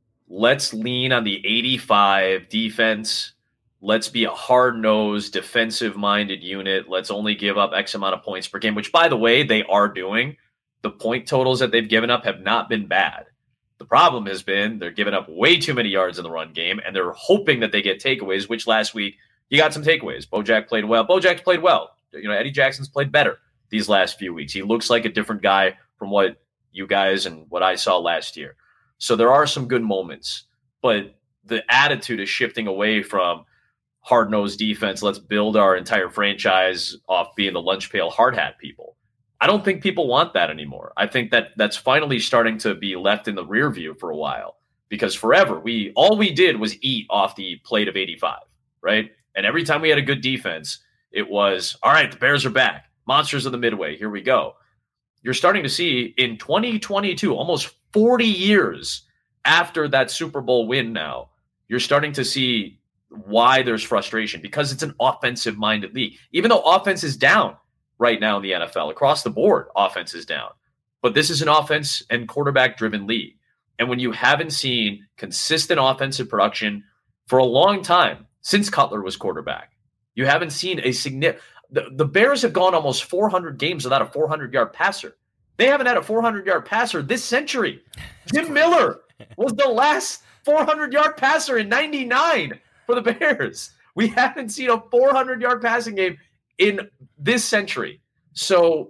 let's lean on the eighty-five defense. Let's be a hard-nosed, defensive-minded unit. Let's only give up X amount of points per game, which, by the way, they are doing. The point totals that they've given up have not been bad. The problem has been they're giving up way too many yards in the run game, and they're hoping that they get takeaways, which last week you got some takeaways. Bojack played well. Bojack's played well. You know, Eddie Jackson's played better these last few weeks. He looks like a different guy from what you guys and what I saw last year. So there are some good moments, but the attitude is shifting away from hard-nosed defense. Let's build our entire franchise off being the lunch pail hard hat people. I don't think people want that anymore. I think that that's finally starting to be left in the rear view for a while, because forever we all we did was eat off the plate of eighty-five, right? And every time we had a good defense, it was, all right, the Bears are back. Monsters of the Midway. Here we go. You're starting to see in twenty twenty-two, almost forty years after that Super Bowl win now, you're starting to see why there's frustration, because it's an offensive-minded league. Even though offense is down right now in the N F L, across the board, offense is down. But this is an offense and quarterback-driven league. And when you haven't seen consistent offensive production for a long time, since Cutler was quarterback, you haven't seen a significant – the, the Bears have gone almost four hundred games without a four hundred-yard passer. They haven't had a four hundred-yard passer this century. Jim Miller was the last four hundred-yard passer in ninety-nine for the Bears. We haven't seen a four hundred-yard passing game in this century. So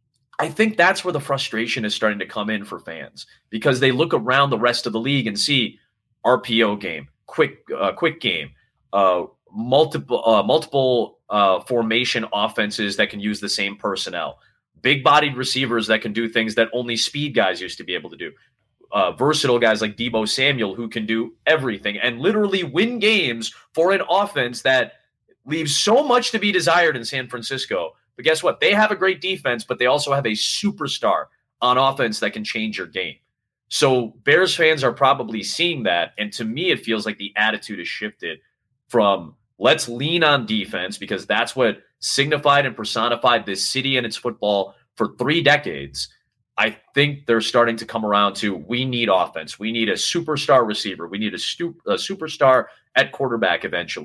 I think that's where the frustration is starting to come in for fans, because they look around the rest of the league and see R P O game, quick uh, quick game, uh, multiple uh, multiple uh, formation offenses that can use the same personnel, big-bodied receivers that can do things that only speed guys used to be able to do, uh, versatile guys like Deebo Samuel who can do everything and literally win games for an offense that leaves so much to be desired in San Francisco. But guess what? They have a great defense, but they also have a superstar on offense that can change your game. So Bears fans are probably seeing that. And to me, it feels like the attitude has shifted from let's lean on defense, because that's what signified and personified this city and its football for three decades. I think they're starting to come around to we need offense. We need a superstar receiver. We need a, stu- a superstar at quarterback eventually.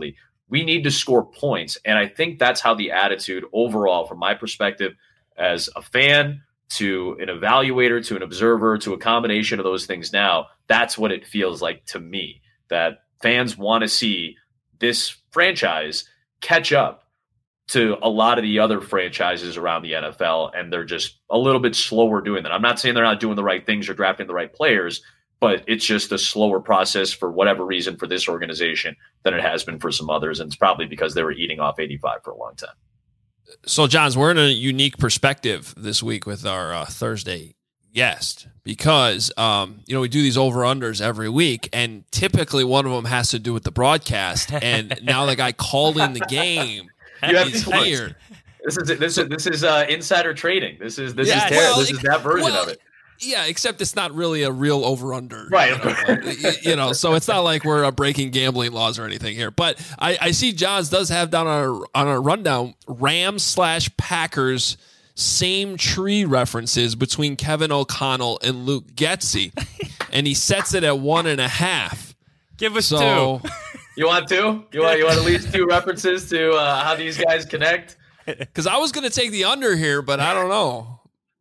We need to score points. And I think that's how the attitude overall, from my perspective, as a fan to an evaluator to an observer to a combination of those things now, that's what it feels like to me, that fans want to see this franchise catch up to a lot of the other franchises around the N F L, and they're just a little bit slower doing that. I'm not saying they're not doing the right things or drafting the right players, but it's just a slower process for whatever reason for this organization than it has been for some others, and it's probably because they were eating off eighty-five for a long time. So, Johns, we're in a unique perspective this week with our uh, Thursday guest because, um, you know, we do these over-unders every week, and typically one of them has to do with the broadcast, and now the guy calling the game You have is these points. here. This is this is this is uh, insider trading. This is this Yeah, is well, this is that version well, of it. Yeah, except it's not really a real over-under. Right, You know, like, you know, so it's not like we're uh, breaking gambling laws or anything here. But I, I see Johns does have down on our, on our rundown Rams slash Packers same tree references between Kevin O'Connell and Luke Getsy. And he sets it at one and a half. Give us so, two. You want two? You want you want at least two references to uh, how these guys connect? Because I was going to take the under here, but I don't know.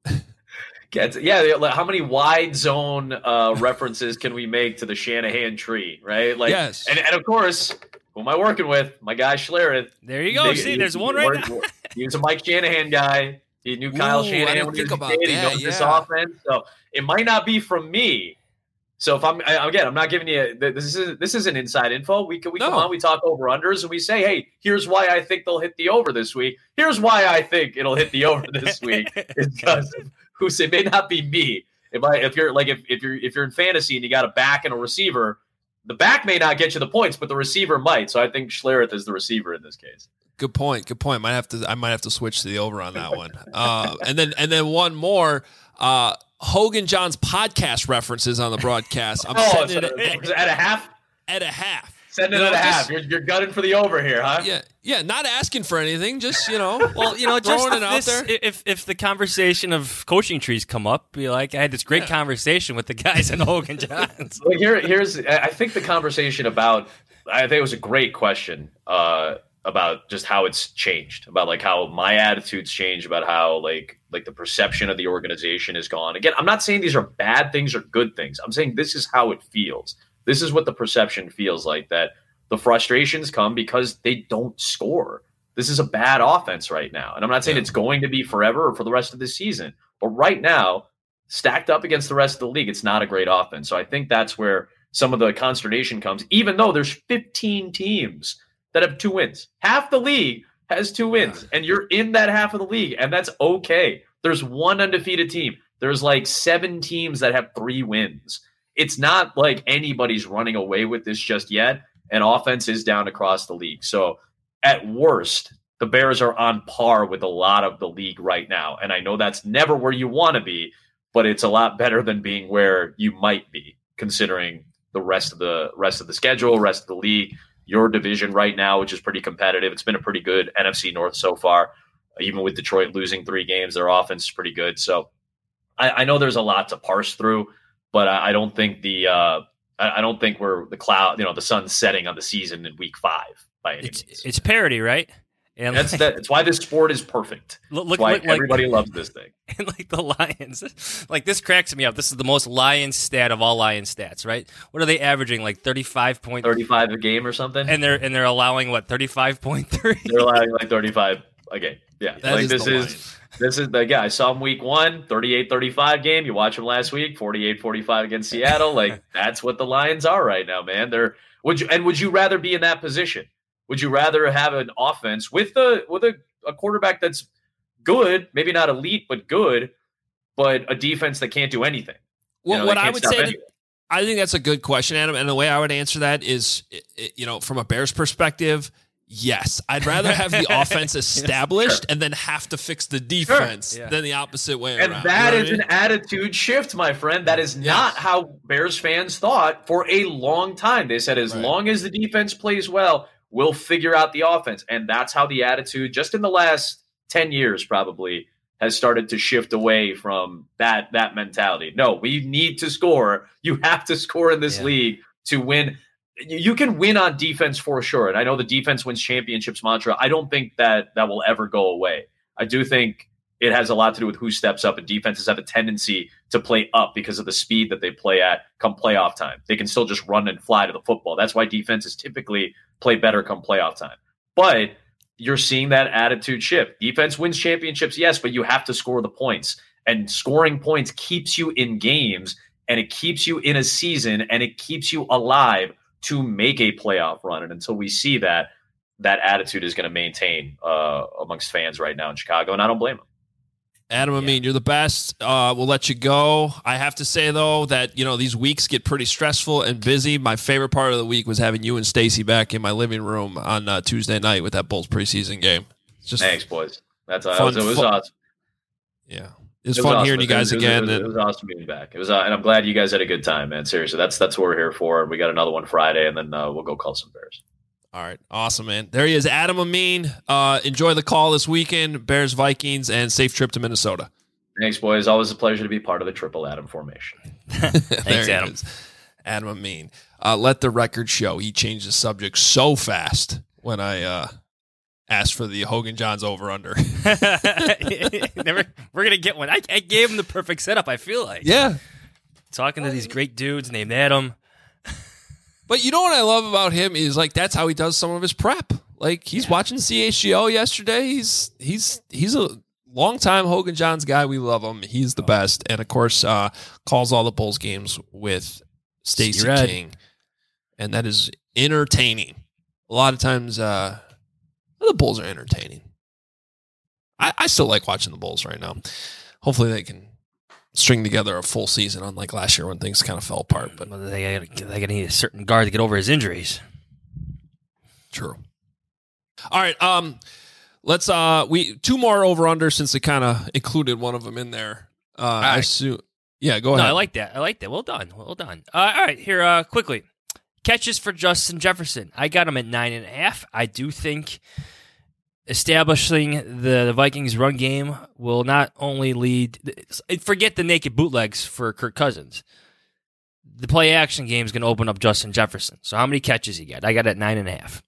Gets, yeah, how many wide zone uh, references can we make to the Shanahan tree, right? Like, yes. and, and of course, who am I working with? My guy Schlereth. There you go. Big, See, he, there's he, one he right worked, now. He was a Mike Shanahan guy. He knew Kyle Ooh, I Shanahan didn't when he think was a about kid. He that, knows this yeah. offense. So it might not be from me. So if I'm I, again, I'm not giving you this is this isn't inside info. We can we No. come on, we talk over unders, and we say, hey, here's why I think they'll hit the over this week. Here's why I think it'll hit the over this week. It's because of who say it may not be me. If I if you're like if, if you're if you're in fantasy and you got a back and a receiver, the back may not get you the points, but the receiver might. So I think Schlereth is the receiver in this case. Good point. Good point. Might have to. I might have to switch to the over on that one. Uh, and then and then one more. Uh, Hogan John's podcast references on the broadcast. I'm oh, setting so it at, at a half. At a half. Send it You know, at a half. just- You're, you're gunning for the over here, huh? Yeah, yeah. Not asking for anything. Just you know. Well, you know, just throwing it out this, there. if if the conversation of coaching trees come up, be like, I had this great conversation with the guys in Hogan Johns. Well, here, here's. I think the conversation about. I think it was a great question uh, about just how it's changed, about like how my attitudes changed, about how like like the perception of the organization is gone. Again, I'm not saying these are bad things or good things. I'm saying this is how it feels. This is what the perception feels like, that the frustrations come because they don't score. This is a bad offense right now. And I'm not saying Yeah. it's going to be forever or for the rest of the season, but right now, stacked up against the rest of the league, it's not a great offense. So I think that's where some of the consternation comes, even though there's fifteen teams that have two wins. Half the league has two wins, and you're in that half of the league, and that's okay. There's one undefeated team. There's like seven teams that have three wins. It's not like anybody's running away with this just yet, and offense is down across the league. So at worst, the Bears are on par with a lot of the league right now. And I know that's never where you want to be, but it's a lot better than being where you might be, considering the rest of the rest of the schedule, rest of the league, your division right now, which is pretty competitive. It's been a pretty good N F C North so far. Even with Detroit losing three games, their offense is pretty good. So I, I know there's a lot to parse through, but I, I don't think the uh, I, I don't think we're the cloud, you know, the sun's setting on the season in week five by any It's means. it's parody, right? And That's like, that. It's why this sport is perfect. Look, It's look, why look, like- everybody loves this thing. and like the Lions, like this cracks me up. This is the most Lions stat of all Lions stats, right? What are they averaging? Like thirty-five point thirty-five a game or something, and they're and they're allowing what thirty-five point three. they're allowing like thirty-five a game. Yeah, That like is this the is Lions. this is the guy. I saw him week one, thirty-eight thirty-five game. You watch him last week, forty-eight forty-five against Seattle. Like that's what the Lions are right now, man. They're would you and would you rather be in that position? Would you rather have an offense with the with a, a quarterback that's good, maybe not elite, but good, but a defense that can't do anything? You Well, know, what they I can't would stop say, to, anything. I think that's a good question, Adam. And the way I would answer that is, i- i- you know, from a Bears perspective, yes, I'd rather have the offense established and then have to fix the defense Yeah. than the opposite way And around. that You know is what I an mean? attitude shift, my friend. That is not how Bears fans thought for a long time. They said as Right. long as the defense plays well, we'll figure out the offense. And that's how the attitude, just in the last ten years probably, has started to shift away from that that mentality. No, we need to score. You have to score in this Yeah. league to win. you can win on defense for sure. And I know the defense wins championships mantra. I don't think that that will ever go away. I do think it has a lot to do with who steps up, and defenses have a tendency to play up because of the speed that they play at come playoff time. They can still just run and fly to the football. That's why defenses typically play better come playoff time. But you're seeing that attitude shift. Defense wins championships, yes, but you have to score the points. And scoring points keeps you in games, and it keeps you in a season, and it keeps you alive to make a playoff run. And until we see that, that attitude is going to maintain uh, amongst fans right now in Chicago, and I don't blame them. Adam Amin, you're the best. Uh, we'll let you go. I have to say, though, that you know these weeks get pretty stressful and busy. My favorite part of the week was having you and Stacy back in my living room on uh, Tuesday night with that Bulls preseason game. It's just Thanks, boys. That's uh, fun, it was, it was fun. awesome. Yeah, it was, it was fun awesome. hearing you guys it was, again. It was, it was awesome being back. It was, uh, and I'm glad you guys had a good time, man. Seriously, that's that's what we're here for. We got another one Friday, and then uh, we'll go call some Bears. All right. Awesome, man. There he is, Adam Amin. Uh, enjoy the call this weekend. Bears, Vikings, and safe trip to Minnesota. Thanks, boys. Always a pleasure to be part of the Triple Adam formation. Thanks, Adam. Is. Adam Amin. Uh, let the record show he changed the subject so fast when I uh, asked for the Hogan Johns over-under. Never, we're going to get one. I, I gave him the perfect setup, I feel like. Yeah. Talking to these great dudes named Adam. But you know what I love about him is like that's how he does some of his prep. Like he's yeah. watching C H G O yesterday. He's he's he's a longtime Hogan Johns guy. We love him. He's the best, and of course, uh, calls all the Bulls games with Stacey King, and that is entertaining. A lot of times, uh, the Bulls are entertaining. I, I still like watching the Bulls right now. Hopefully, they can string together a full season, unlike last year when things kind of fell apart. But they they gonna need a certain guard to get over his injuries. True. All right. Um. Let's uh we two more over under since they kind of included one of them in there. Uh right. I assume yeah, go ahead. No, I like that. I like that. Well done. Well done. Uh, all right, here uh quickly. Catches for Justin Jefferson. I got him at nine and a half. I do think establishing the, the Vikings run game will not only lead forget the naked bootlegs for Kirk Cousins. The play action game is going to open up Justin Jefferson. So how many catches he got? I got it at nine and a half.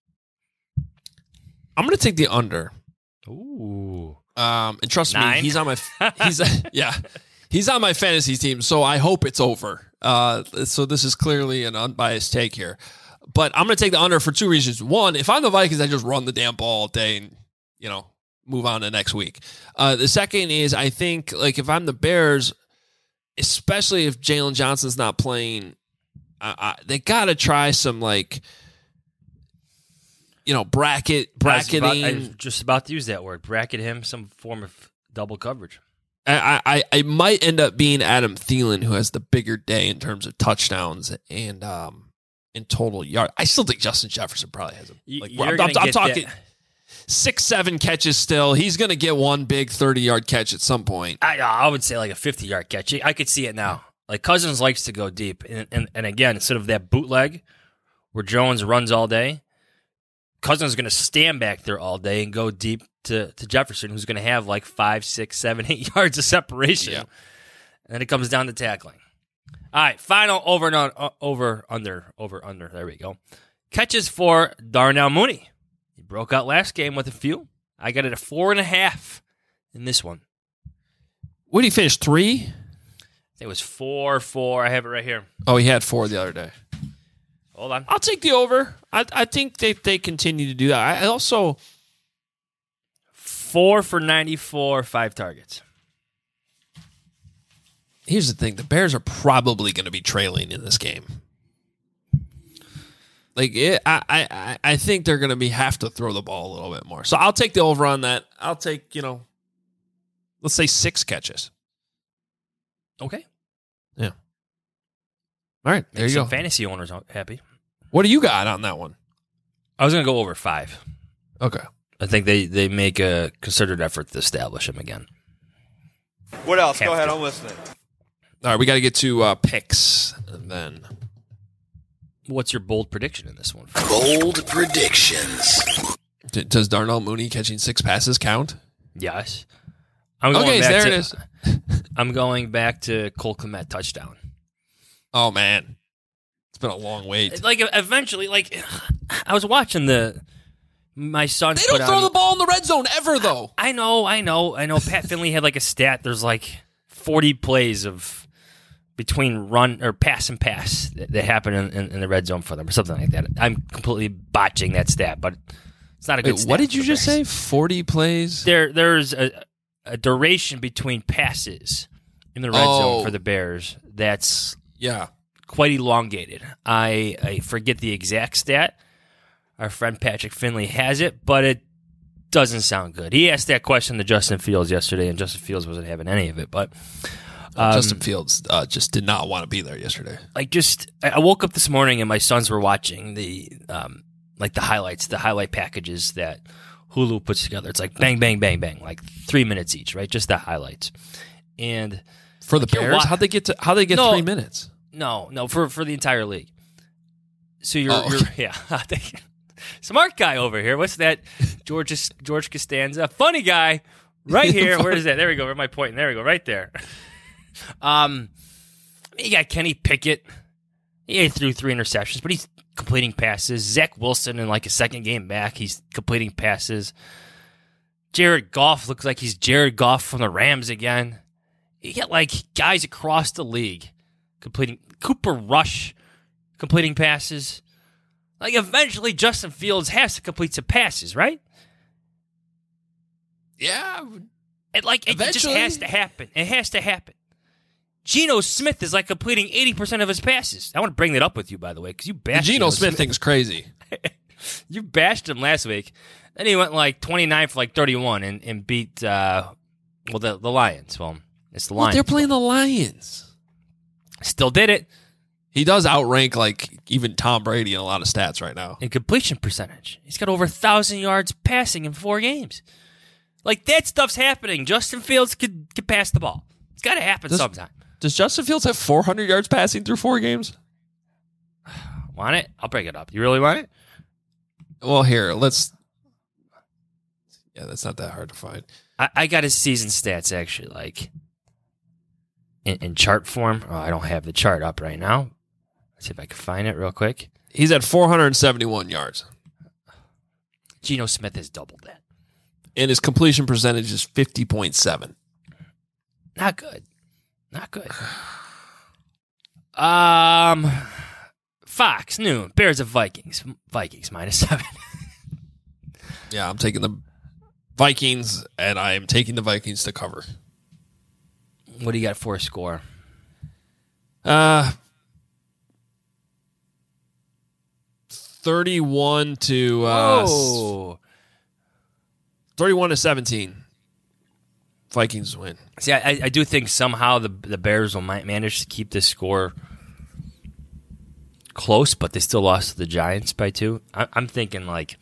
I'm going to take the under. Ooh. Um, and trust Nine? me, he's on my he's yeah, he's on my fantasy team, so I hope it's over. Uh, so this is clearly an unbiased take here, but I'm going to take the under for two reasons. One, if I'm the Vikings, I just run the damn ball all day and you know move on to next week. Uh, the second is I think like if I'm the Bears, especially if Jalen Johnson's not playing, I, I, they got to try some like. You know, bracket, bracketing. I was, about, I was just about to use that word. Bracket him, some form of double coverage. I, I, I might end up being Adam Thielen, who has the bigger day in terms of touchdowns and um in total yard. I still think Justin Jefferson probably has a. Like, I'm, I'm, I'm talking that. six, seven catches still. He's going to get one big thirty-yard catch at some point. I, I would say like a fifty-yard catch. I could see it now. Like Cousins likes to go deep, and and, and again, instead of that bootleg where Jones runs all day. Cousins is going to stand back there all day and go deep to, to Jefferson, who's going to have like five, six, seven, eight yards of separation. Yeah. And then it comes down to tackling. All right, final over and on, uh, over under over under. There we go. Catches for Darnell Mooney. He broke out last game with a few. I got it at four and a half in this one. What did he finish? Three? It was four, four. I have it right here. Oh, he had four the other day. Hold on. I'll take the over. I I think they, they continue to do that. I also... Four for ninety-four, five targets. Here's the thing. The Bears are probably going to be trailing in this game. Like, it, I, I, I think they're going to be have to throw the ball a little bit more. So I'll take the over on that. I'll take, you know, let's say six catches. Okay. Yeah. All right, there Make you some go. Fantasy owners happy. What do you got on that one? I was going to go over five. Okay. I think they, they make a concerted effort to establish him again. What else? Have go ahead, to. I'm listening. All right, we got to get to uh, picks, and then... What's your bold prediction in this one? Bold predictions. D- does Darnell Mooney catching six passes count? Yes. I'm going okay, back there to, it is. I'm going back to Cole Kmet touchdown. Oh, man. It's been a long wait. Like eventually, like I was watching the my son. They don't put throw on, the ball in the red zone ever, though. I know, I know, I know. Pat Finley had like a stat. There's like forty plays of between run or pass and pass that, that happen in, in, in the red zone for them, or something like that. I'm completely botching that stat, but it's not a good. Wait, stat what did you for just Bears. say? Forty plays. There, there's a, a duration between passes in the red Oh. zone for the Bears. That's Yeah. quite elongated. I, I forget the exact stat. Our friend Patrick Finley has it, but it doesn't sound good. He asked that question to Justin Fields yesterday, and Justin Fields wasn't having any of it. But um, Justin Fields uh, just did not want to be there yesterday. like, just I I woke up this morning and my sons were watching the um, like the highlights, the highlight packages that Hulu puts together. It's like bang, bang, bang, bang, like three minutes each, right? Just the highlights. And For the like, you're Bears, wa- how'd they get to? How they get No. three minutes? No, no, for for the entire league. So you're, Oh, you're okay. yeah, smart guy over here. What's that? George George Costanza, funny guy, right here. Where is that? There we go. Where am I pointing? There we go. Right there. Um, you got Kenny Pickett. He threw three interceptions, but he's completing passes. Zach Wilson in like a second game back, he's completing passes. Jared Goff looks like he's Jared Goff from the Rams again. You get like guys across the league completing. Cooper Rush completing passes. Like eventually Justin Fields has to complete some passes, right? Yeah. It like it just Eventually. has to happen. It has to happen. Geno Smith is like completing eighty percent of his passes. I want to bring that up with you, by the way, because you The bashed Geno Smith thing's crazy. You bashed him last week. Then he went like twenty-nine for like thirty-one and, and beat uh, well the the Lions. Well, it's the Well, Lions. they're playing the Lions. Still did it. He does outrank like even Tom Brady in a lot of stats right now. In completion percentage. He's got over one thousand yards passing in four games. Like, that stuff's happening. Justin Fields could, could pass the ball. It's got to happen Does- sometime. Does Justin Fields have four hundred yards passing through four games? Want it? I'll break it up. You really want it? Well, here, let's. Yeah, that's not that hard to find. I, I got his season stats, actually, like, in, in chart form. Oh, I don't have the chart up right now. Let's see if I can find it real quick. He's at four hundred seventy-one yards. Geno Smith has doubled that. And his completion percentage is fifty point seven. Not good. Not good. Um, Fox, noon. Bears of Vikings. Vikings minus seven. Yeah, I'm taking the Vikings, and I am taking the Vikings to cover. What do you got for a score? Uh, thirty-one to uh, Oh. thirty-one to seventeen. Vikings win. See, I, I do think somehow the the Bears will might manage to keep this score close, but they still lost to the Giants by two. I, I'm thinking like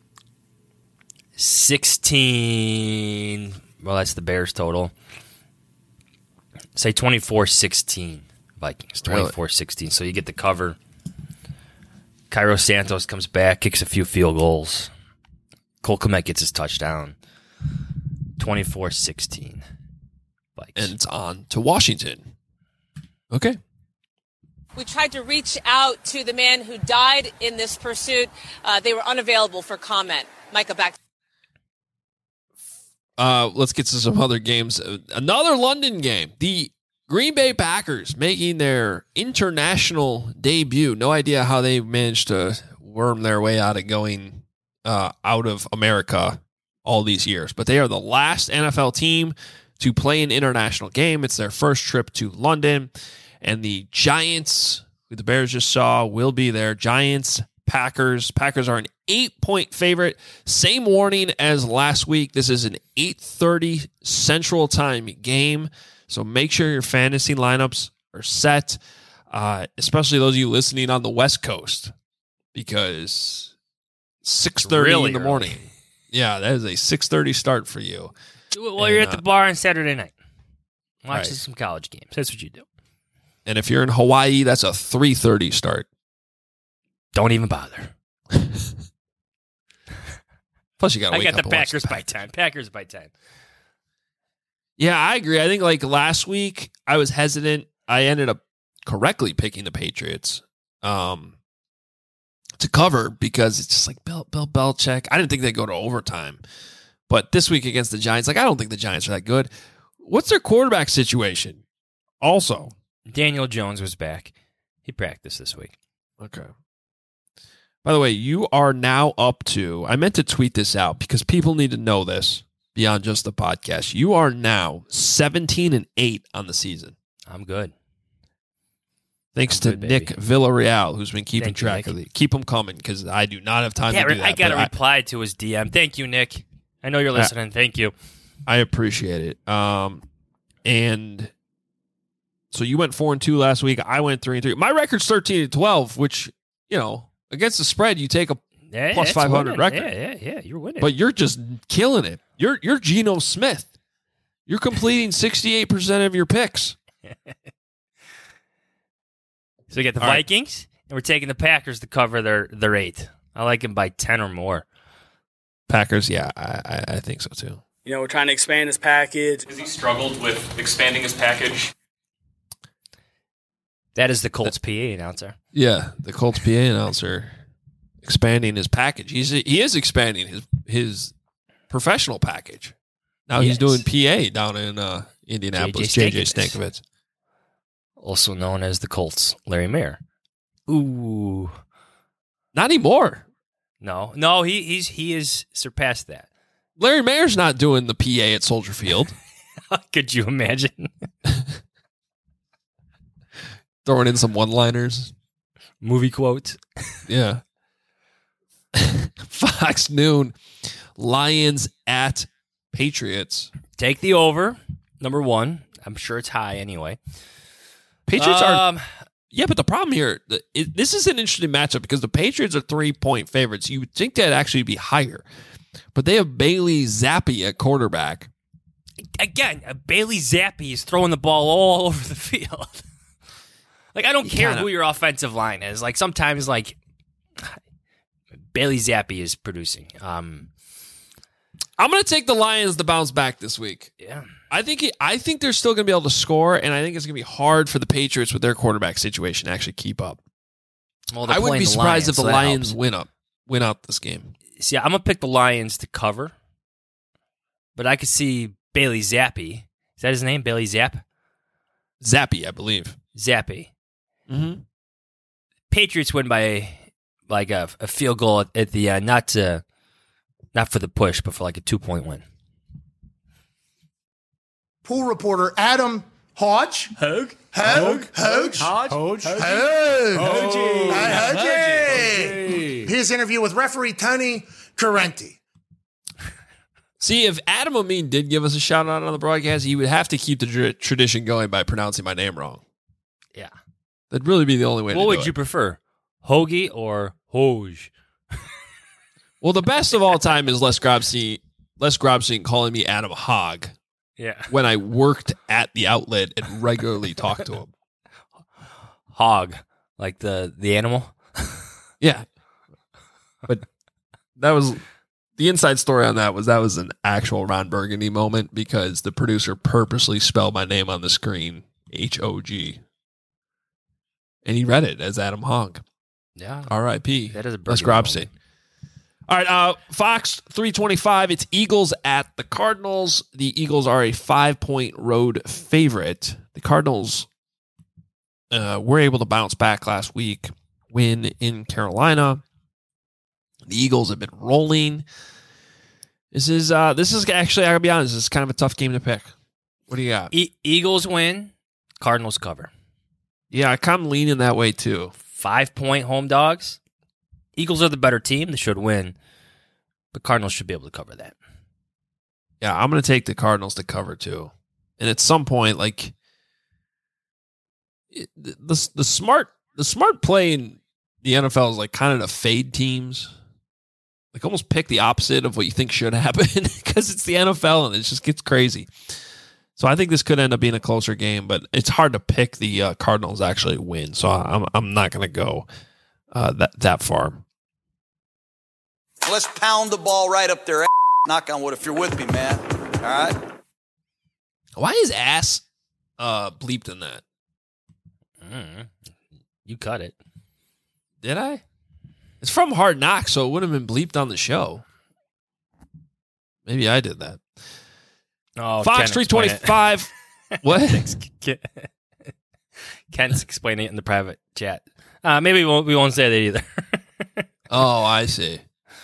sixteen. Well, that's the Bears total. Say twenty-four sixteen Vikings. twenty-four sixteen. So you get the cover. Cairo Santos comes back, kicks a few field goals. Cole Kmet gets his touchdown. twenty-four sixteen. And it's on to Washington. Okay. We tried to reach out to the man who died in this pursuit. Uh, they were unavailable for comment. Micah, back. Uh, let's get to some other games. Uh, Another London game. The Green Bay Packers making their international debut. No idea how they managed to worm their way out of going uh, out of America all these years. But they are the last N F L team to play an international game. It's their first trip to London. And the Giants, who the Bears just saw, will be there. Giants, Packers. Packers are an eight-point favorite. Same warning as last week. This is an eight thirty Central Time game. So make sure your fantasy lineups are set, uh, especially those of you listening on the West Coast, because six thirty Really in the early. morning. Yeah, that is a six thirty start for you. Well, And, you're at uh, the bar on Saturday night. Watching Right. some college games. That's what you do. And if you're in Hawaii, that's a three thirty start. Don't even bother. Plus, you got to I wake got up the and watch Packers by ten. Packers by ten. Yeah, I agree. I think like last week, I was hesitant. I ended up correctly picking the Patriots. um, to cover because it's just like Bill, Bill Belichick. I didn't think they'd go to overtime. But this week against the Giants, like I don't think the Giants are that good. What's their quarterback situation? Also, Daniel Jones was back. He practiced this week. Okay. By the way, you are now up to, I meant to tweet this out because people need to know this beyond just the podcast. You are now seventeen and eight on the season. I'm good. Thanks I'm to good, Nick baby. Villarreal, who's been keeping Thank you, track Nick. of it. Keep them coming because I do not have time Yeah, to do that. I got to but reply to his D M. Thank you, Nick. I know you're listening. Thank you. I appreciate it. Um, and so you went four and two last week. I went three and three. My record's thirteen and twelve, which, you know, against the spread, you take a Yeah, plus it's five hundred winning. record. Yeah, yeah, yeah. You're winning. But you're just killing it. You're you're Geno Smith. You're completing sixty-eight percent of your picks. So we got the All right. Vikings, and we're taking the Packers to cover their, their eight. I like them by ten or more. Packers, yeah, I, I, I think so too. You know, we're trying to expand his package. Has he struggled with expanding his package? That is the Colts P A announcer. Yeah, the Colts P A announcer expanding his package. He's he is expanding his his professional package. Now Yes. he's doing P A down in uh, Indianapolis. J J Stankovitz. Stankovitz. Also known as the Colts Larry Mayer. Ooh. Not anymore. No, no, he he's he is surpassed that. Larry Mayer's not doing the P A at Soldier Field. Could you imagine? Throwing in some one-liners. Movie quotes. Yeah. Fox Noon. Lions at Patriots. Take the over, number one. I'm sure it's high anyway. Patriots are... Um, Yeah, but the problem here, the, it, this is an interesting matchup because the Patriots are three-point favorites. You would think that'd actually be higher. But they have Bailey Zappi at quarterback. Again, uh, Bailey Zappi is throwing the ball all over the field. Like, I don't You care kinda- who your offensive line is. Like, sometimes, like, Bailey Zappi is producing. Um, I'm going to take the Lions to bounce back this week. yeah. I think it, I think they're still going to be able to score, and I think it's going to be hard for the Patriots with their quarterback situation to actually keep up. Well, they're I wouldn't playing be the surprised Lions, if the so that Lions helps. win up, win out this game. See, I'm going to pick the Lions to cover, but I could see Bailey Zappi. Is that his name? Bailey Zapp? Zappi, I believe. Zappi. Mm-hmm. Patriots win by like a, a field goal at, at the uh, not to, not for the push, but for like a two point win. Pool reporter Adam Hodge. Hogue. Hogue. Hogue. Hodge. Hodge. Hogue. Hogue. Hogue. Hogue. His interview with referee Tony Correnti. See, if Adam Amin did give us a shout out on the broadcast, he would have to keep the tr- tradition going by pronouncing my name wrong. Yeah. That'd really be the only way What to would do you it. prefer, Hoagie or Hoge? Well, the best of all time is Les Grobstein, Les Grobstein calling me Adam Hogg Yeah. when I worked at the outlet and regularly talked to him. Hog, like the the animal. Yeah. But that was the inside story on that was that was an actual Ron Burgundy moment because the producer purposely spelled my name on the screen H O G. And he read it as Adam Hogg. Yeah. R I P. That is a Les Burgundy Grobstein. moment. All right, uh, Fox three twenty-five. It's Eagles at the Cardinals. The Eagles are a five-point road favorite. The Cardinals uh, were able to bounce back last week, win in Carolina. The Eagles have been rolling. This is uh, this is actually, I gotta be honest, this is kind of a tough game to pick. What do you got? E- Eagles win, Cardinals cover. Yeah, I kind of leaning that way too. Five point home dogs. Eagles are the better team. They should win, but Cardinals should be able to cover that. Yeah, I'm going to take the Cardinals to cover too. And at some point, like it, the the smart the smart play in the N F L is like kind of to fade teams, like almost pick the opposite of what you think should happen because it's the N F L and it just gets crazy. So I think this could end up being a closer game, but it's hard to pick the uh, Cardinals actually win. So I'm I'm not going to go uh, that that far. Let's pound the ball right up their ass. Knock on wood if you're with me, man. All right? Why is ass uh, bleeped in that? Mm, you cut it. Did I? It's from Hard Knocks, so it would have been bleeped on the show. Maybe I did that. Oh, Fox three twenty-five. What? Ken's explaining it in the private chat. Uh, maybe we won't, we won't say that either. Oh, I see.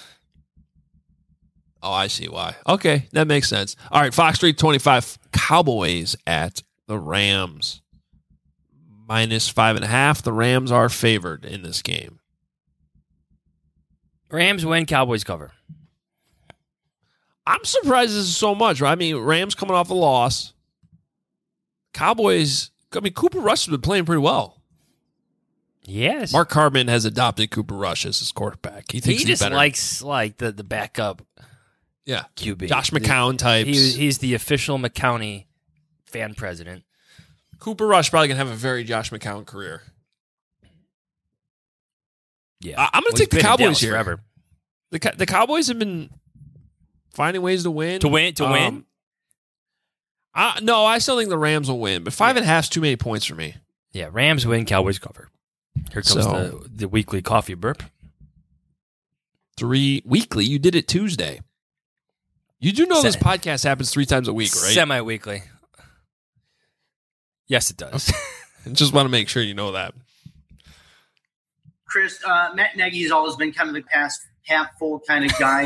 Oh, I see why. Okay, that makes sense. All right, Fox three twenty-five, Cowboys at the Rams. Minus five and a half. The Rams are favored in this game. Rams win, Cowboys cover. I'm surprised this is so much. Right? I mean, Rams coming off a loss. Cowboys, I mean, Cooper Rush has been playing pretty well. Yes. Mark Carman has adopted Cooper Rush as his quarterback. He thinks he he's just better. likes like the, the backup yeah. Q B. Josh McCown types. He, he's the official McCowney fan president. Cooper Rush probably going to have a very Josh McCown career. Yeah. I, I'm going Well, to take the he's been in Cowboys Dallas here. forever. The Co- the Cowboys have been finding ways to win. To win? To Um, win? I, no, I still think the Rams will win, but five and a half is too many points for me. Yeah, Rams win, Cowboys cover. Here comes So- the, the weekly coffee burp. Three weekly. You did it Tuesday. You do know Se- this podcast happens three times a week, right? Semi-weekly. Yes, it does. I just want to make sure you know that. Chris, uh, Matt Nagy's always been kind of the past half full kind of guy.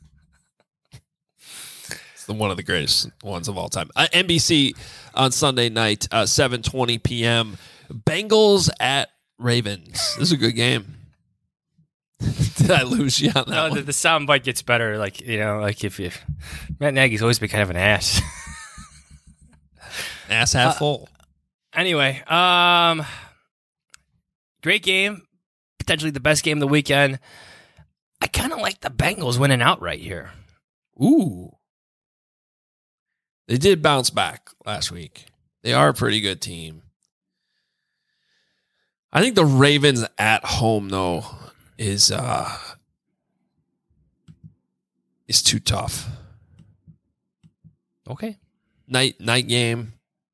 It's the, one of the greatest ones of all time. Uh, N B C on Sunday night, uh, seven twenty p.m. Bengals at Ravens. This is a good game. Did I lose you on that No, one? the, the sound bite gets better. Like, you know, like if you. Matt Nagy's always been kind of an ass. Ass half Uh, full. Anyway, um, great game. Potentially the best game of the weekend. I kind of like the Bengals winning outright here. Ooh. They did bounce back last week. They are a pretty good team. I think the Ravens at home, though, is uh, is too tough. Okay. Night night game.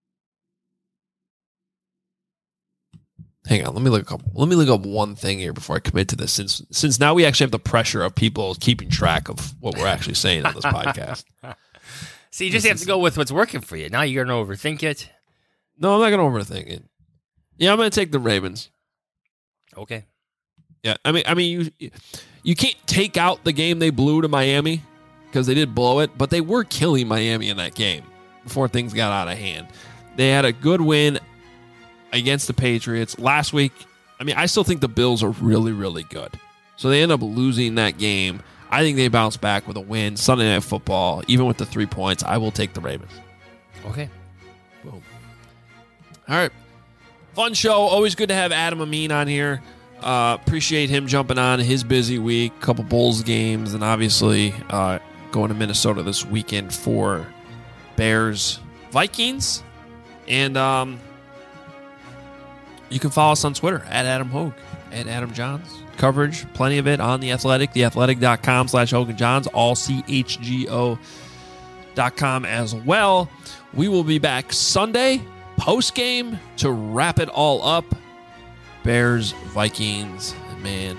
Hang on, let me look up. Let me look up one thing here before I commit to this. Since since now we actually have the pressure of people keeping track of what we're actually saying on this podcast. So you just have to go with what's working for you. Now you're going to overthink it. No, I'm not going to overthink it. Yeah, I'm going to take the Ravens. Okay. Yeah, I mean, I mean, you you can't take out the game they blew to Miami because they did blow it, but they were killing Miami in that game before things got out of hand. They had a good win against the Patriots last week. I mean, I still think the Bills are really, really good. So they end up losing that game. I think they bounce back with a win. Sunday Night Football, even with the three points, I will take the Ravens. Okay. Boom. All right. Fun show. Always good to have Adam Amin on here. Uh, appreciate him jumping on his busy week. Couple Bulls games, and obviously uh, going to Minnesota this weekend for Bears Vikings. And um, you can follow us on Twitter at Adam Hogue, at Adam Johns. Coverage, plenty of it on The Athletic, theathletic.com slash Hogan Johns, all C H G O dot com as well. We will be back Sunday, post-game, to wrap it all up. Bears, Vikings, and man,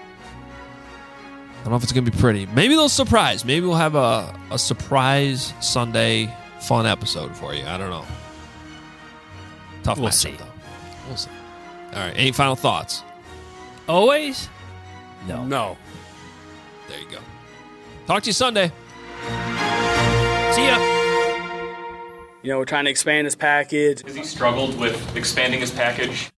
I don't know if it's going to be pretty. Maybe they'll surprise. Maybe we'll have a, a surprise Sunday fun episode for you. I don't know. Tough We'll matchup, see. though. We'll see. All right. Any final thoughts? Always? No. No. There you go. Talk to you Sunday. See ya. You know, we're trying to expand this package. He struggled with expanding his package.